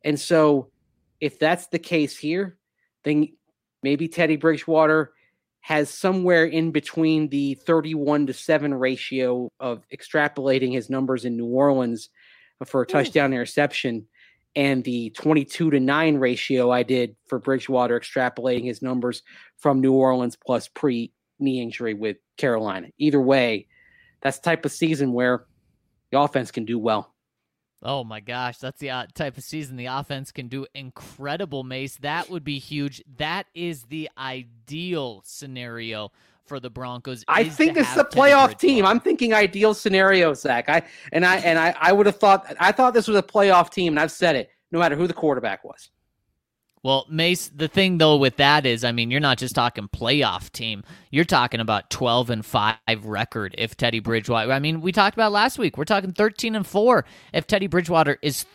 And so if that's the case here, then maybe Teddy Bridgewater has somewhere in between the 31-7 ratio of extrapolating his numbers in New Orleans for a touchdown interception and the 22-9 ratio I did for Bridgewater extrapolating his numbers from New Orleans plus pre-knee injury with Carolina. Either way, that's the type of season where the offense can do well. Oh my gosh, that's the type of season the offense can do incredible, Mace. That would be huge. That is the ideal scenario for the Broncos. I think this is a playoff team. I'm thinking ideal scenario, Zach. I would have thought. I thought this was a playoff team, and I've said it. No matter who the quarterback was. Well, Mace, the thing though with that is, I mean, you're not just talking playoff team. You're talking about 12-5 record if Teddy Bridgewater. I mean, we talked about last week. We're talking 13-4 if Teddy Bridgewater is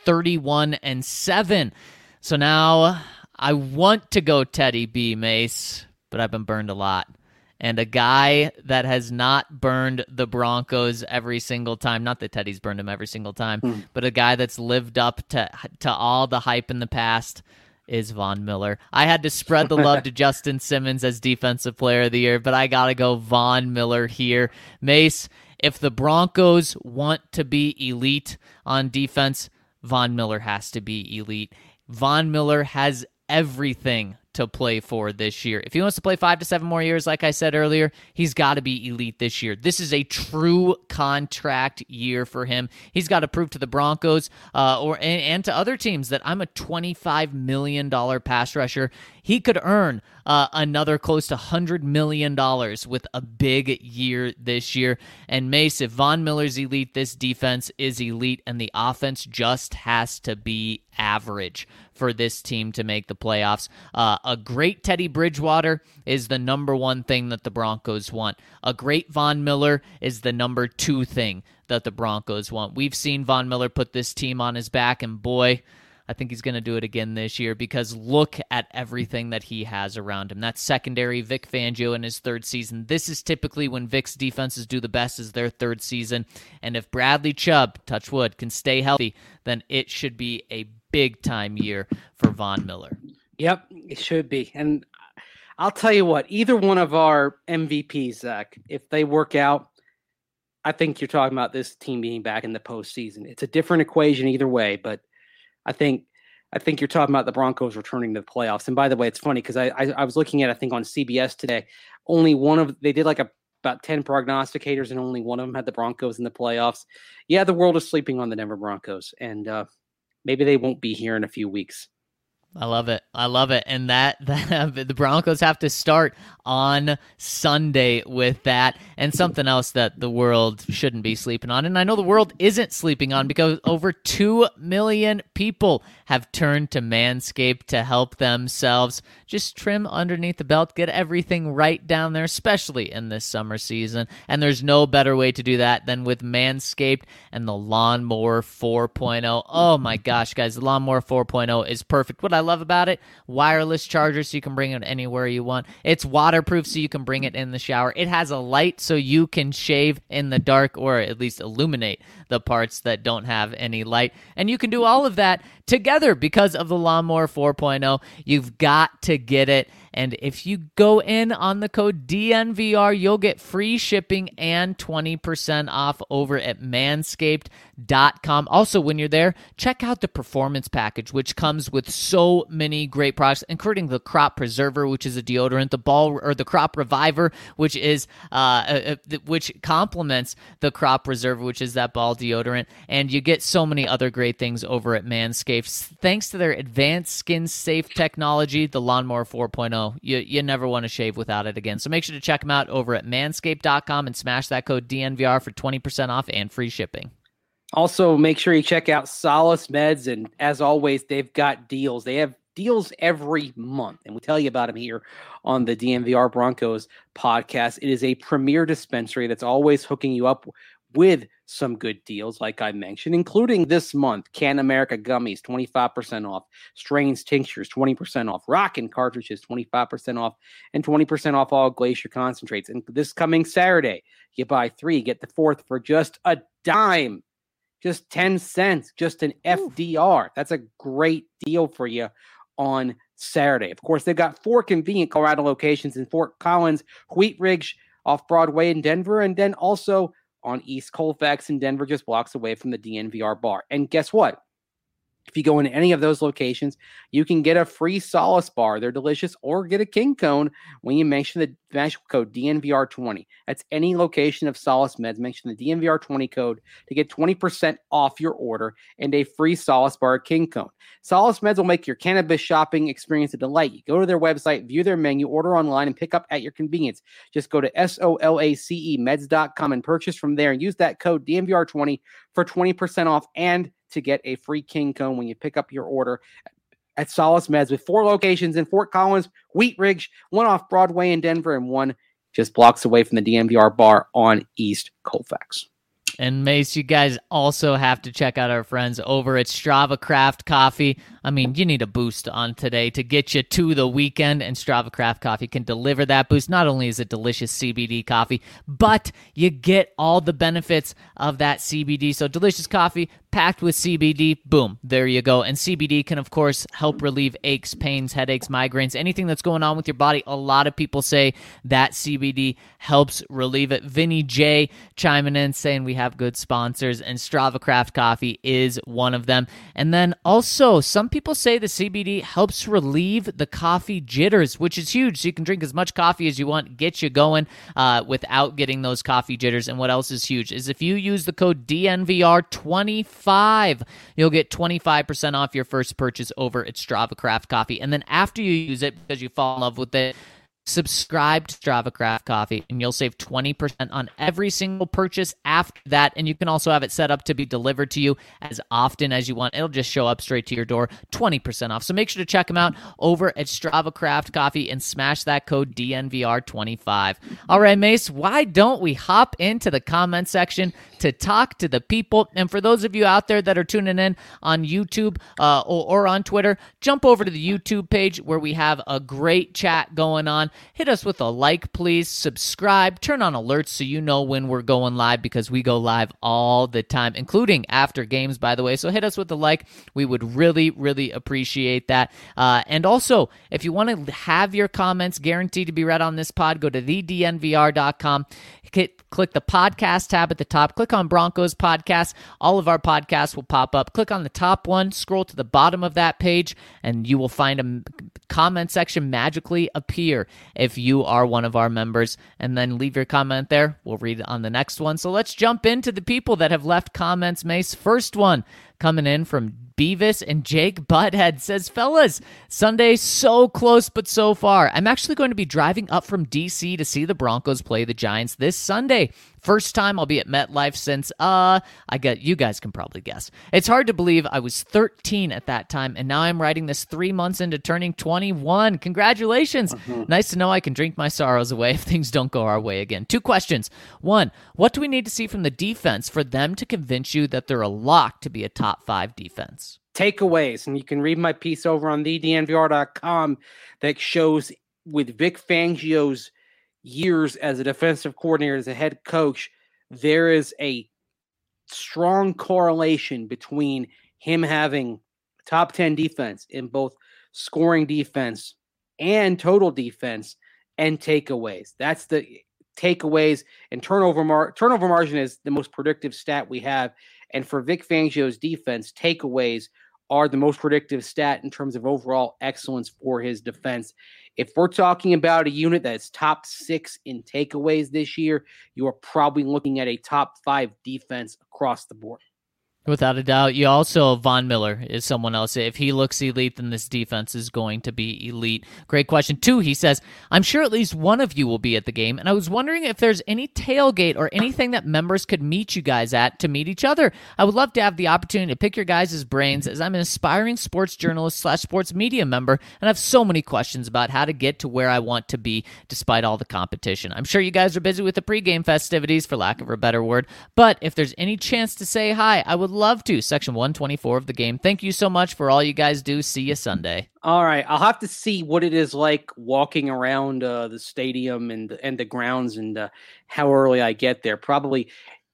31-7. So now I want to go Teddy B, Mace, but I've been burned a lot. And a guy that has not burned the Broncos every single time, not that Teddy's burned him every single time, but a guy that's lived up to all the hype in the past is Von Miller. I had to spread the love to Justin Simmons as Defensive Player of the Year, but I got to go Von Miller here. Mace, if the Broncos want to be elite on defense, Von Miller has to be elite. Von Miller has everything to play for this year. If he wants to play 5 to 7 more years, like I said earlier, he's got to be elite this year. This is a true contract year for him. He's got to prove to the Broncos and to other teams that I'm a $25 million pass rusher. He could earn another close to $100 million with a big year this year. And Mace, if Von Miller's elite, this defense is elite, and the offense just has to be average for this team to make the playoffs. A great Teddy Bridgewater is the number one thing that the Broncos want. A great Von Miller is the number two thing that the Broncos want. We've seen Von Miller put this team on his back, and boy, I think he's going to do it again this year because look at everything that he has around him. That secondary, Vic Fangio in his third season. This is typically when Vic's defenses do the best, is their third season. And if Bradley Chubb, touch wood, can stay healthy, then it should be a big-time year for Von Miller. Yep, it should be. And I'll tell you what, either one of our MVPs, Zach, if they work out, I think you're talking about this team being back in the postseason. It's a different equation either way, but I think you're talking about the Broncos returning to the playoffs. And by the way, it's funny because I was looking at, I think on CBS today, they did like about 10 prognosticators and only one of them had the Broncos in the playoffs. Yeah, the world is sleeping on the Denver Broncos, and maybe they won't be here in a few weeks. I love it. And that the Broncos have to start on Sunday with that. And something else that the world shouldn't be sleeping on, and I know the world isn't sleeping on, because over 2 million people have turned to Manscaped to help themselves just trim underneath the belt, get everything right down there, especially in this summer season. And there's no better way to do that than with Manscaped and the Lawnmower 4.0. Oh my gosh, guys, the Lawnmower 4.0 is perfect. What I love about it, wireless charger so you can bring it anywhere you want. It's waterproof so you can bring it in the shower. It has a light so you can shave in the dark, or at least illuminate the parts that don't have any light. And you can do all of that together because of the Lawnmower 4.0. You've got to get it. And if you go in on the code DNVR, you'll get free shipping and 20% off over at manscaped.com. Also, when you're there, check out the Performance Package, which comes with so many great products, including the Crop Preserver, which is a deodorant, the Crop Reviver, which is which complements the Crop Preserver, which is that ball deodorant. And you get so many other great things over at Manscaped. Thanks to their advanced skin-safe technology, the Lawnmower 4.0, you never want to shave without it again. So make sure to check them out over at manscaped.com and smash that code DNVR for 20% off and free shipping. Also, make sure you check out Solace Meds, and as always, they've got deals. They have deals every month, and we tell you about them here on the DNVR Broncos podcast. It is a premier dispensary that's always hooking you up with some good deals, like I mentioned, including this month, Can America Gummies, 25% off, Strains Tinctures, 20% off, Rockin' Cartridges, 25% off, and 20% off all Glacier Concentrates. And this coming Saturday, you buy 3, get the 4th for just $10. just 10 cents, just an FDR. That's a great deal for you on Saturday. Of course, they've got 4 convenient Colorado locations in Fort Collins, Wheat Ridge off Broadway in Denver, and then also on East Colfax in Denver, just blocks away from the DNVR bar. And guess what? If you go into any of those locations, you can get a free Solace bar. They're delicious. Or get a King Cone when you mention the magical code DNVR20. That's any location of Solace Meds. Mention the DNVR20 code to get 20% off your order and a free Solace bar or King Cone. Solace Meds will make your cannabis shopping experience a delight. You go to their website, view their menu, order online, and pick up at your convenience. Just go to SOLACEmeds.com and purchase from there and use that code DNVR20 for 20% off and to get a free King Cone when you pick up your order at Solace Meds, with 4 locations in Fort Collins, Wheat Ridge, 1 off Broadway in Denver, and 1 just blocks away from the DNVR bar on East Colfax. And Mace, you guys also have to check out our friends over at Strava Craft Coffee. I mean, you need a boost on today to get you to the weekend, and Strava Craft Coffee can deliver that boost. Not only is it delicious CBD coffee, but you get all the benefits of that CBD. So delicious coffee packed with CBD, boom, there you go. And CBD can, of course, help relieve aches, pains, headaches, migraines, anything that's going on with your body. A lot of people say that CBD helps relieve it. Vinny J chiming in saying we have good sponsors, and Strava Craft Coffee is one of them. And then also, some people say the CBD helps relieve the coffee jitters, which is huge. So you can drink as much coffee as you want, get you going without getting those coffee jitters. And what else is huge is if you use the code DNVR25, you'll get 25% off your first purchase over at Strava Craft Coffee. And then after you use it, because you fall in love with it, subscribe to Strava Craft Coffee, and you'll save 20% on every single purchase after that. And you can also have it set up to be delivered to you as often as you want. It'll just show up straight to your door, 20% off. So make sure to check them out over at Strava Craft Coffee and smash that code DNVR25. All right, Mace, why don't we hop into the comment section to talk to the people? And for those of you out there that are tuning in on YouTube or on Twitter, jump over to the YouTube page where we have a great chat going on. Hit us with a like, please. Subscribe. Turn on alerts so you know when we're going live, because we go live all the time, including after games, by the way. So hit us with a like. We would really, really appreciate that. And also, if you want to have your comments guaranteed to be read on this pod, go to thednvr.com. Click the podcast tab at the top. Click on Broncos Podcast. All of our podcasts will pop up. Click on the top one. Scroll to the bottom of that page, and you will find a comment section magically appear if you are one of our members. And then leave your comment there. We'll read it on the next one. So let's jump into the people that have left comments, Mace. First one coming in from Beavis and Jake Butthead says, fellas, Sunday so close but so far. I'm actually going to be driving up from D.C. to see the Broncos play the Giants this Sunday. First time I'll be at MetLife since, you guys can probably guess. It's hard to believe I was 13 at that time, and now I'm writing this 3 months into turning 21. Congratulations. Nice to know I can drink my sorrows away if things don't go our way again. 2 questions. 1, what do we need to see from the defense for them to convince you that they're a lock to be a top 5 defense? Takeaways, and you can read my piece over on thednvr.com that shows with Vic Fangio's years as a defensive coordinator, as a head coach, there is a strong correlation between him having top 10 defense in both scoring defense and total defense and takeaways. That's the takeaways, and turnover margin is the most predictive stat we have. And for Vic Fangio's defense, takeaways are the most predictive stat in terms of overall excellence for his defense. If we're talking about a unit that's top 6 in takeaways this year, you are probably looking at a top 5 defense across the board. Without a doubt. You also, Von Miller is someone else. If he looks elite, then this defense is going to be elite. Great question. 2, he says, I'm sure at least one of you will be at the game, and I was wondering if there's any tailgate or anything that members could meet you guys at to meet each other. I would love to have the opportunity to pick your guys' brains, as I'm an aspiring sports journalist / sports media member, and I have so many questions about how to get to where I want to be despite all the competition. I'm sure you guys are busy with the pregame festivities, for lack of a better word, but if there's any chance to say hi, I would love to. Section 124 of the game. Thank you so much for all you guys do. See you Sunday. All right. I'll have to see what it is like walking around the stadium and the grounds, and how early I get there. Probably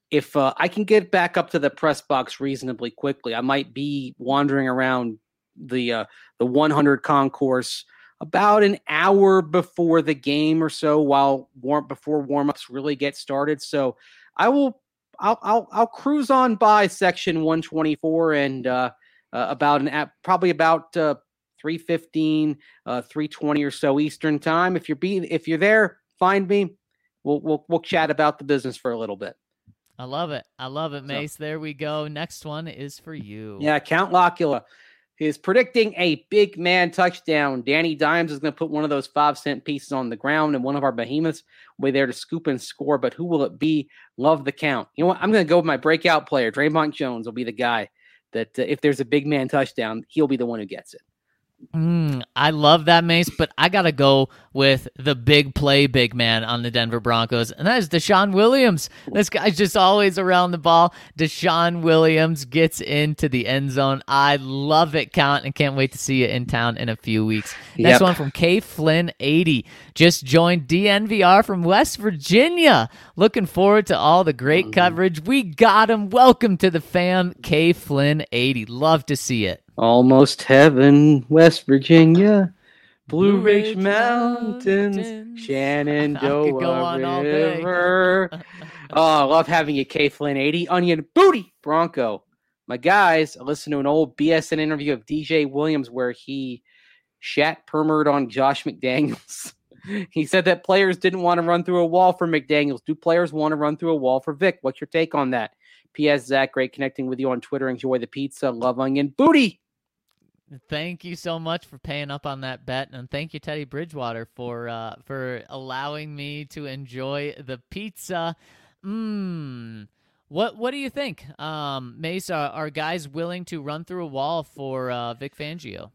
if I can get back up to the press box reasonably quickly, I might be wandering around the 100 concourse about an hour before the game or so, before warm-ups really get started. So I'll cruise on by section 124 and probably about 3:15, 3:20 or so Eastern time. If you're there, find me. We'll chat about the business for a little bit. I love it. Mace. There we go. Next one is for you. Yeah, Count Locula is predicting a big man touchdown. Danny Dimes is going to put one of those 5-cent pieces on the ground, and one of our behemoths will be there to scoop and score. But who will it be? Love the count. You know what? I'm going to go with my breakout player. Draymond Jones will be the guy that if there's a big man touchdown, he'll be the one who gets it. I love that, Mace, but I got to go with the big man on the Denver Broncos, and that is Deshaun Williams. This guy's just always around the ball. Deshaun Williams gets into the end zone. I love it, Count, and can't wait to see you in town in a few weeks. Next one from K Flynn 80. Just joined DNVR from West Virginia. Looking forward to all the great coverage. We got him. Welcome to the fam, K Flynn 80. Love to see it. Almost heaven, West Virginia, Blue Ridge Mountains, Shenandoah River. I love having you, K Flynn 80. Onion Booty Bronco. My guys, I listened to an old BSN interview of DJ Williams where he shat-permered on Josh McDaniels. He said that players didn't want to run through a wall for McDaniels. Do players want to run through a wall for Vic? What's your take on that? P.S. Zach, great connecting with you on Twitter. Enjoy the pizza. Love Onion Booty. Thank you so much for paying up on that bet, and thank you, Teddy Bridgewater, for allowing me to enjoy the pizza. What do you think, Mace? Are guys willing to run through a wall for Vic Fangio?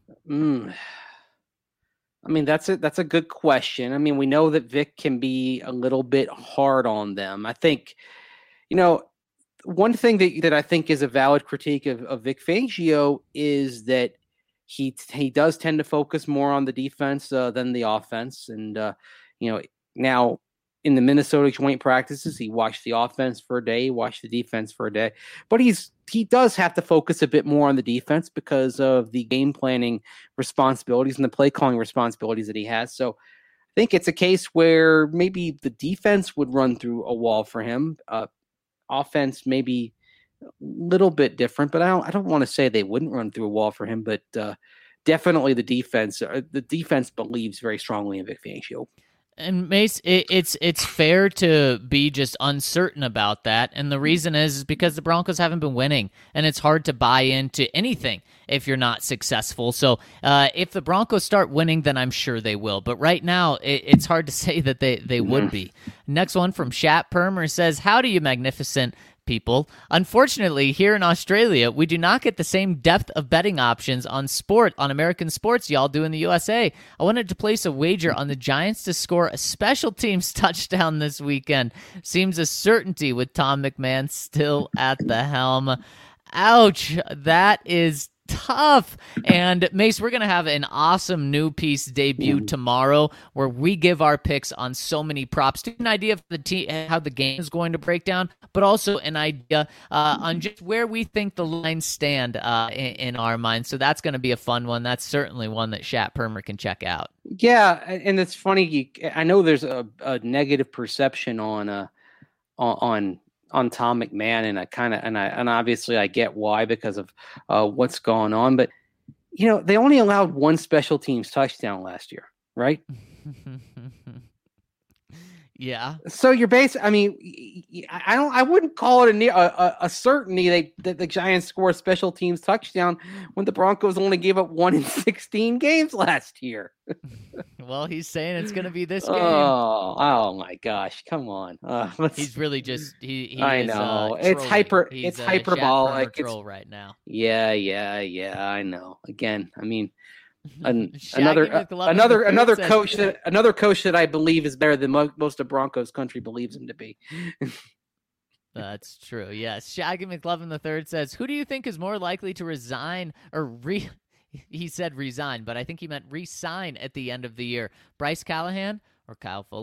I mean, that's a good question. I mean, we know that Vic can be a little bit hard on them. I think, one thing that I think is a valid critique of Vic Fangio is that he does tend to focus more on the defense than the offense. And, now in the Minnesota joint practices, he watched the offense for a day, watched the defense for a day. But he does have to focus a bit more on the defense because of the game planning responsibilities and the play calling responsibilities that he has. So I think it's a case where maybe the defense would run through a wall for him. Offense maybe a little bit different, but I don't want to say they wouldn't run through a wall for him, but definitely the defense believes very strongly in Vic Fangio. And Mace, it's fair to be just uncertain about that, and the reason is because the Broncos haven't been winning, and it's hard to buy into anything if you're not successful. So if the Broncos start winning, then I'm sure they will. But right now, it's hard to say that they would be. Next one from Shat Permer says, "Howdy, you magnificent people. Unfortunately, here in Australia, we do not get the same depth of betting options on American sports y'all do in the USA. I wanted to place a wager on the Giants to score a special teams touchdown this weekend. Seems a certainty with Tom McMahon still at the helm." Ouch, that is tough. And Mace, we're going to have an awesome new piece debut tomorrow where we give our picks on so many props to an idea of how the game is going to break down, but also an idea on just where we think the lines stand in our minds. So that's going to be a fun one. That's certainly one that Shat Permer can check out. Yeah, and it's funny. I know there's a negative perception on Tom McMahon, and obviously I get why because of what's going on. But they only allowed one special teams touchdown last year, right? Yeah. So you're I mean, I wouldn't call it a certainty that the Giants score a special teams touchdown when the Broncos only gave up 1 in 16 games last year. Well, he's saying it's going to be this game. Oh my gosh! Come on. He's really just he. I know it's hyperbolic. It's right now. Yeah. I know. Again, I mean. Another coach that I believe is better than most of Broncos country believes him to be. That's true. Yes. Shaggy McLovin III says, "Who do you think is more likely to resign or he said resign, but I think he meant re-sign at the end of the year. Bryce Callahan or Kyle Fuller?"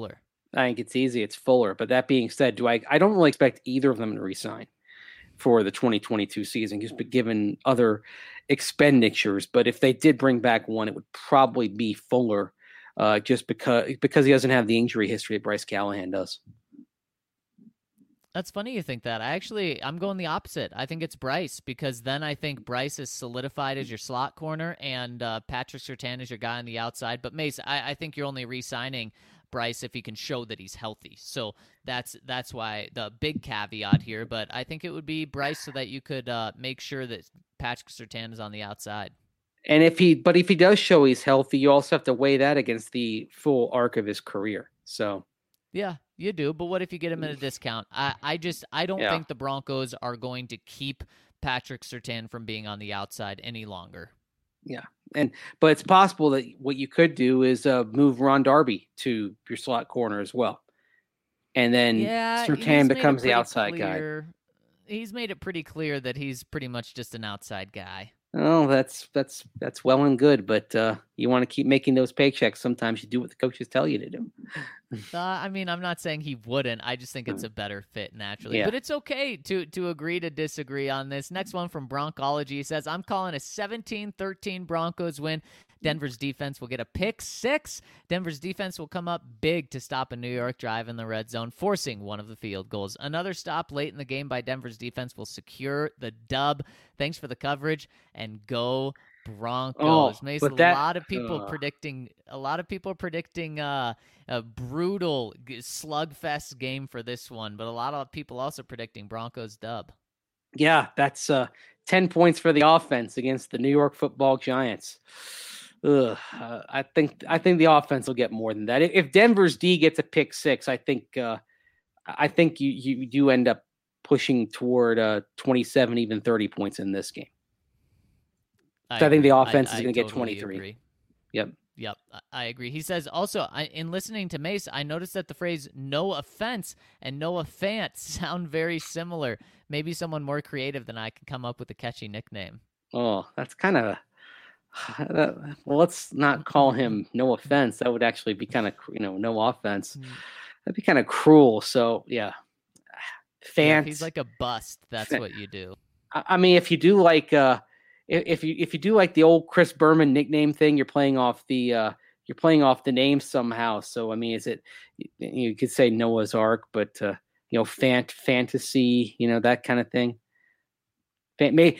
I think it's easy. It's Fuller. But that being said, I don't really expect either of them to resign for the 2022 season, just given other expenditures. But if they did bring back one, it would probably be Fuller, just because he doesn't have the injury history that Bryce Callahan does. That's funny you think that. I'm going the opposite. I think it's Bryce, because then I think Bryce is solidified as your slot corner and Patrick Surtain is your guy on the outside. But Mace, I think you're only re-signing Bryce if he can show that he's healthy. So that's why the big caveat here. But I think it would be Bryce so that you could make sure that Patrick Surtain is on the outside. And if he does show he's healthy, you also have to weigh that against the full arc of his career. So yeah, you do. But what if you get him at a discount? I don't think the Broncos are going to keep Patrick Surtain from being on the outside any longer. Yeah. But it's possible that what you could do is move Ron Darby to your slot corner as well. And then Surtain becomes the outside guy. He's made it pretty clear that he's pretty much just an outside guy. Oh, that's well and good, but you want to keep making those paychecks. Sometimes you do what the coaches tell you to do. I mean, I'm not saying he wouldn't. I just think it's a better fit naturally. Yeah. But it's okay to agree to disagree on this. Next one from Broncology. He says, I'm calling a 17-13 Broncos win. Denver's defense will get a pick 6. Denver's defense will come up big to stop a New York drive in the red zone, forcing one of the field goals. Another stop late in the game by Denver's defense will secure the dub. Thanks for the coverage, and go Broncos. Mace, a lot of people predicting a brutal slugfest game for this one, but a lot of people also predicting Broncos dub. Yeah, that's 10 points for the offense against the New York Football Giants. I think the offense will get more than that. If Denver's D gets a pick 6, I think you do end up pushing toward 27, even 30 points in this game. I think the offense is going to get 23. Agree. Yep, I agree. He says also, in listening to Mace, I noticed that the phrase "no offense" and "Noah Fant" sound very similar. Maybe someone more creative than I can come up with a catchy nickname. Oh, that's kind of. Well, let's not call him No Offense. That would actually be kind of, no offense. That'd be kind of cruel. So yeah, Fant. Yeah, if he's like a bust, that's what you do. I mean, if you do like, if you do like the old Chris Berman nickname thing, you're playing off the name somehow. So I mean, you could say Noah's Ark, but fantasy, that kind of thing. Maybe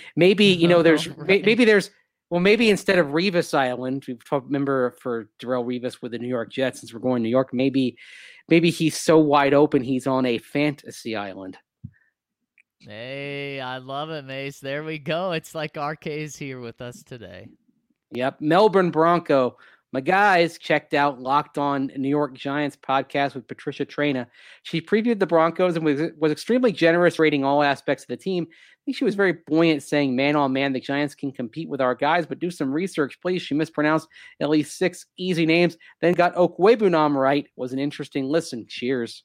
maybe instead of Revis Island, remember for Darrelle Revis with the New York Jets, since we're going to New York, maybe he's so wide open he's on a fantasy island. Hey, I love it, Mace. There we go. It's like RK's here with us today. Yep. Melbourne Bronco. My guys checked out Locked On New York Giants podcast with Patricia Traina. She previewed the Broncos and was extremely generous, rating all aspects of the team. I think she was very buoyant, saying, man, oh man, the Giants can compete with our guys, but do some research, please. She mispronounced at least 6 easy names, then got Okwuegbunam right. Was an interesting listen. Cheers.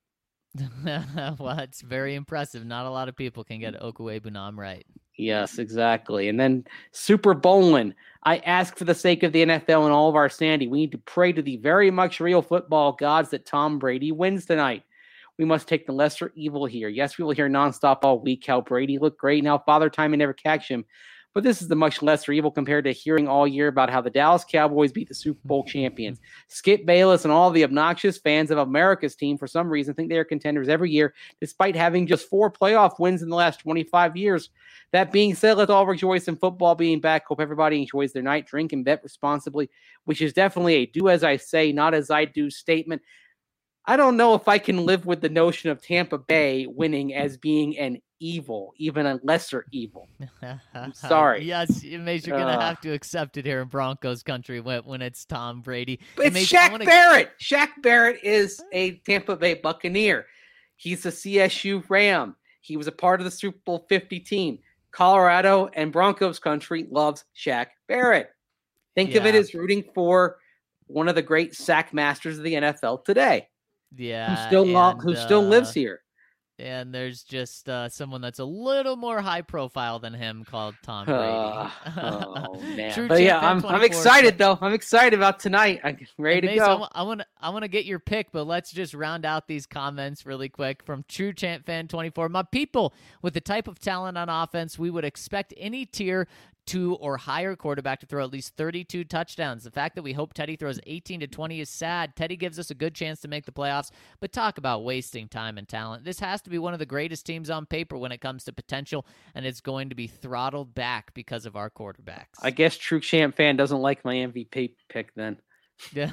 Well, it's very impressive. Not a lot of people can get Okwuegbunam right. Yes, exactly. And then Super Bowlin. I ask for the sake of the NFL and all of our sanity, we need to pray to the very much real football gods that Tom Brady wins tonight. We must take the lesser evil here. Yes, we will hear nonstop all week how Brady looked great. Now Father Time may never catch him. But this is the much lesser evil compared to hearing all year about how the Dallas Cowboys beat the Super Bowl champions. Skip Bayless and all the obnoxious fans of America's team, for some reason, think they are contenders every year, despite having just 4 playoff wins in the last 25 years. That being said, let's all rejoice in football being back. Hope everybody enjoys their night. Drink and bet responsibly, which is definitely a do as I say, not as I do statement. I don't know if I can live with the notion of Tampa Bay winning as being an evil, even a lesser evil. I'm sorry. Yes, Mace, you're going to have to accept it here in Broncos country when it's Tom Brady. It's Mace, Shaq Barrett. Shaq Barrett is a Tampa Bay Buccaneer. He's a CSU Ram. He was a part of the Super Bowl 50 team. Colorado and Broncos country loves Shaq Barrett. Think of it as rooting for one of the great sack masters of the NFL today. Yeah. Who still lives here. And there's just someone that's a little more high profile than him called Tom Brady. Oh man! But yeah, I'm excited though. I'm excited about tonight. I'm ready to go. I want to get your pick, but let's just round out these comments really quick from True Champ Fan 24. My people, with the type of talent on offense, we would expect any tier 2 or higher quarterback to throw at least 32 touchdowns. The fact that we hope Teddy throws 18 to 20 is sad. Teddy gives us a good chance to make the playoffs, but talk about wasting time and talent. This has to be one of the greatest teams on paper when it comes to potential, and it's going to be throttled back because of our quarterbacks. I guess True Champ Fan doesn't like my MVP pick then. Yeah,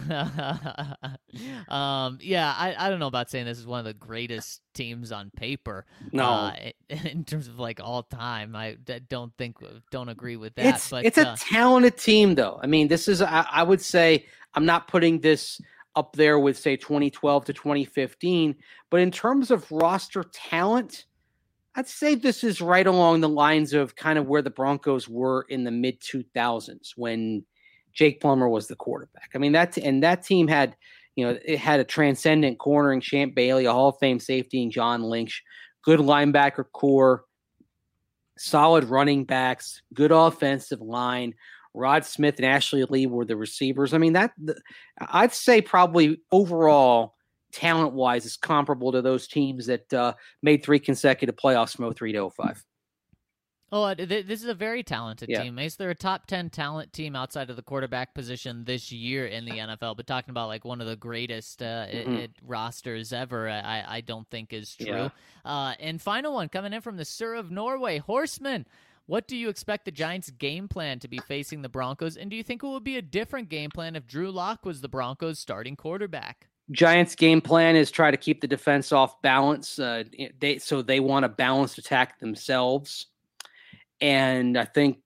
I don't know about saying this is one of the greatest teams on paper. No, in terms of like all time, I don't agree with that. It's a talented team, though. I mean, this is I would say I'm not putting this up there with say 2012 to 2015, but in terms of roster talent, I'd say this is right along the lines of kind of where the Broncos were in the mid 2000s when Jake Plummer was the quarterback. I mean, that team had, it had a transcendent corner in Champ Bailey, a Hall of Fame safety in John Lynch, good linebacker core, solid running backs, good offensive line. Rod Smith and Ashley Lee were the receivers. I mean, I'd say probably overall talent-wise is comparable to those teams that made 3 consecutive playoffs from 03 to 05. Oh, this is a very talented team, Mace. They're a top 10 talent team outside of the quarterback position this year in the NFL. But talking about like one of the greatest rosters ever, I don't think is true. Yeah. And final one coming in from the Sir of Norway, Horseman. What do you expect the Giants' game plan to be facing the Broncos? And do you think it would be a different game plan if Drew Lock was the Broncos' starting quarterback? Giants' game plan is try to keep the defense off balance. So they want a balanced attack themselves. And I think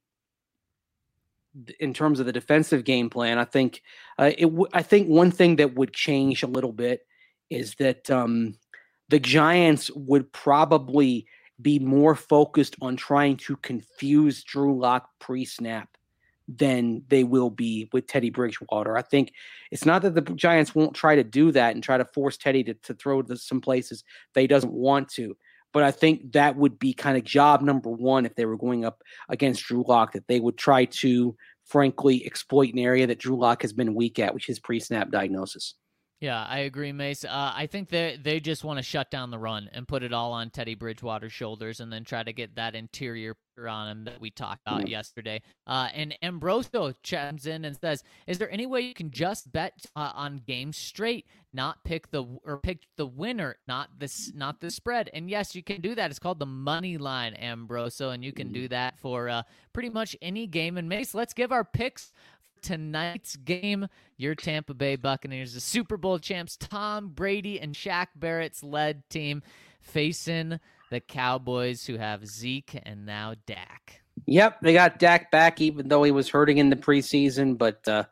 in terms of the defensive game plan, I think one thing that would change a little bit is that the Giants would probably be more focused on trying to confuse Drew Lock pre-snap than they will be with Teddy Bridgewater. I think it's not that the Giants won't try to do that and try to force Teddy to throw to some places that he doesn't want to. But I think that would be kind of job number one if they were going up against Drew Lock, that they would try to, frankly, exploit an area that Drew Lock has been weak at, which is pre-snap diagnosis. Yeah, I agree, Mace. I think they just want to shut down the run and put it all on Teddy Bridgewater's shoulders and then try to get that interior on him that we talked about yesterday. And Ambrosio chimes in and says, is there any way you can just bet on games straight, not pick the winner, not the spread? And yes, you can do that. It's called the money line, Ambrosio, and you can do that for pretty much any game. And Mace, let's give our picks tonight's game. Your Tampa Bay Buccaneers, the Super Bowl champs, Tom Brady and Shaq Barrett's led team, facing the Cowboys, who have Zeke and now Dak. Yep, they got Dak back, even though he was hurting in the preseason. But the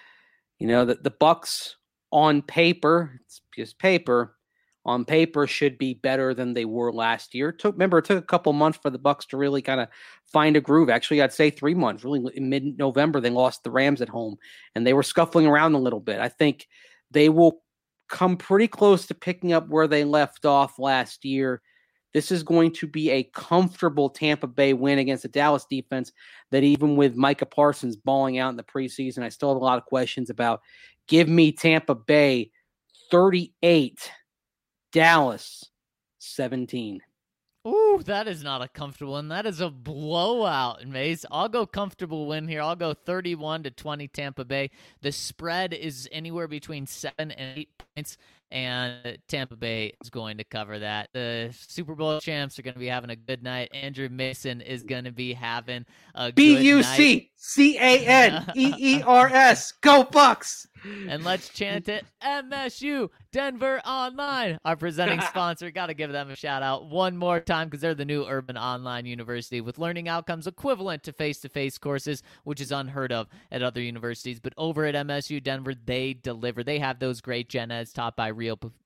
Bucs on paper, it's just paper. On paper, should be better than they were last year. It took a couple months for the Bucs to really kind of find a groove. Actually, I'd say 3 months. Really, in mid-November, they lost the Rams at home, and they were scuffling around a little bit. I think they will come pretty close to picking up where they left off last year. This is going to be a comfortable Tampa Bay win against the Dallas defense that, even with Micah Parsons balling out in the preseason, I still have a lot of questions about. Give me Tampa Bay 38. Dallas 17. Ooh, that is not a comfortable one. That is a blowout, Mace. I'll go comfortable win here. I'll go 31-20 Tampa Bay. The spread is anywhere between 7 and 8 points, and Tampa Bay is going to cover that. The Super Bowl champs are going to be having a good night. Andrew Mason is going to be having a good night. BUCCANEERS. Go Bucks! And let's chant it. MSU Denver Online, our presenting sponsor. Got to give them a shout out one more time because they're the new urban online university with learning outcomes equivalent to face-to-face courses, which is unheard of at other universities. But over at MSU Denver, they deliver. They have those great gen eds taught by real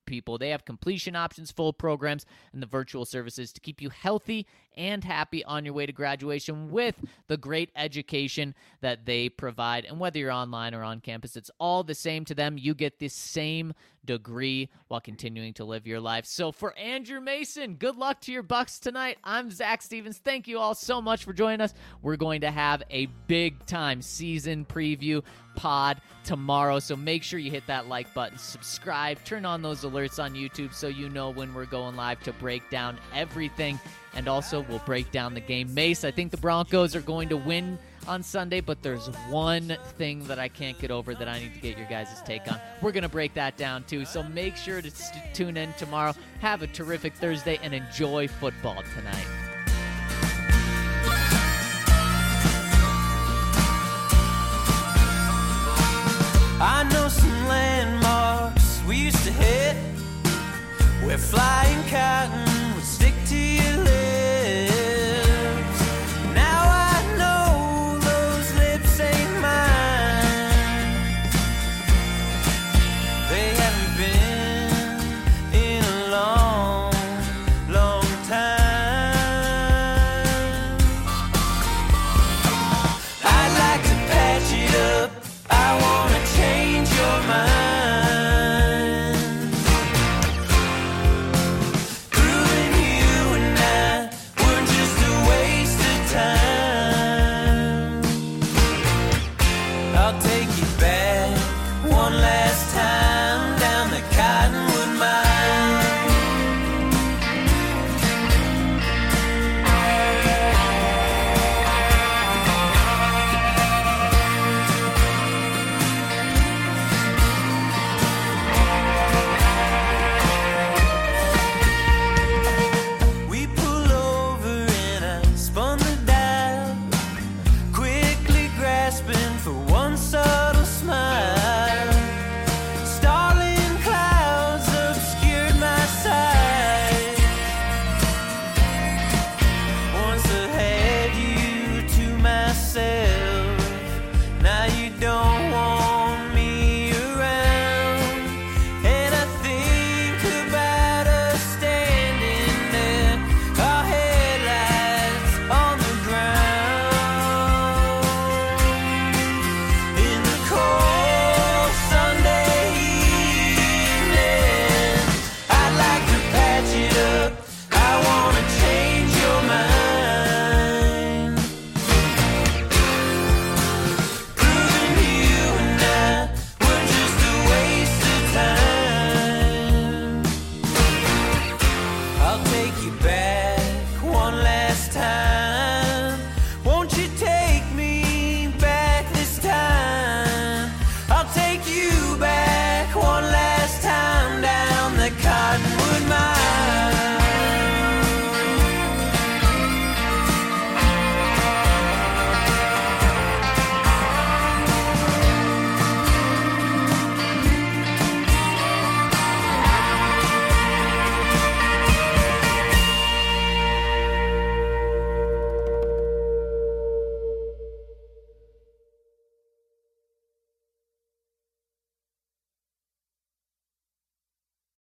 people. They have completion options, full programs, and the virtual services to keep you healthy and happy on your way to graduation with the great education that they provide. And whether you're online or on campus, it's all the same to them. You get the same degree while continuing to live your life. So for Andrew Mason, good luck to your Bucks tonight. I'm Zach Stevens. Thank you all so much for joining us. We're going to have a big-time season preview pod tomorrow, so make sure you hit that like button, subscribe, turn on those alerts on YouTube so you know when we're going live to break down everything. And also, we'll break down the game. Mace, I think the Broncos are going to win on Sunday, but there's one thing that I can't get over that I need to get your guys' take on. We're going to break that down, too. So make sure to tune in tomorrow. Have a terrific Thursday and enjoy football tonight. I know some landmarks we used to hit. We're flying cotton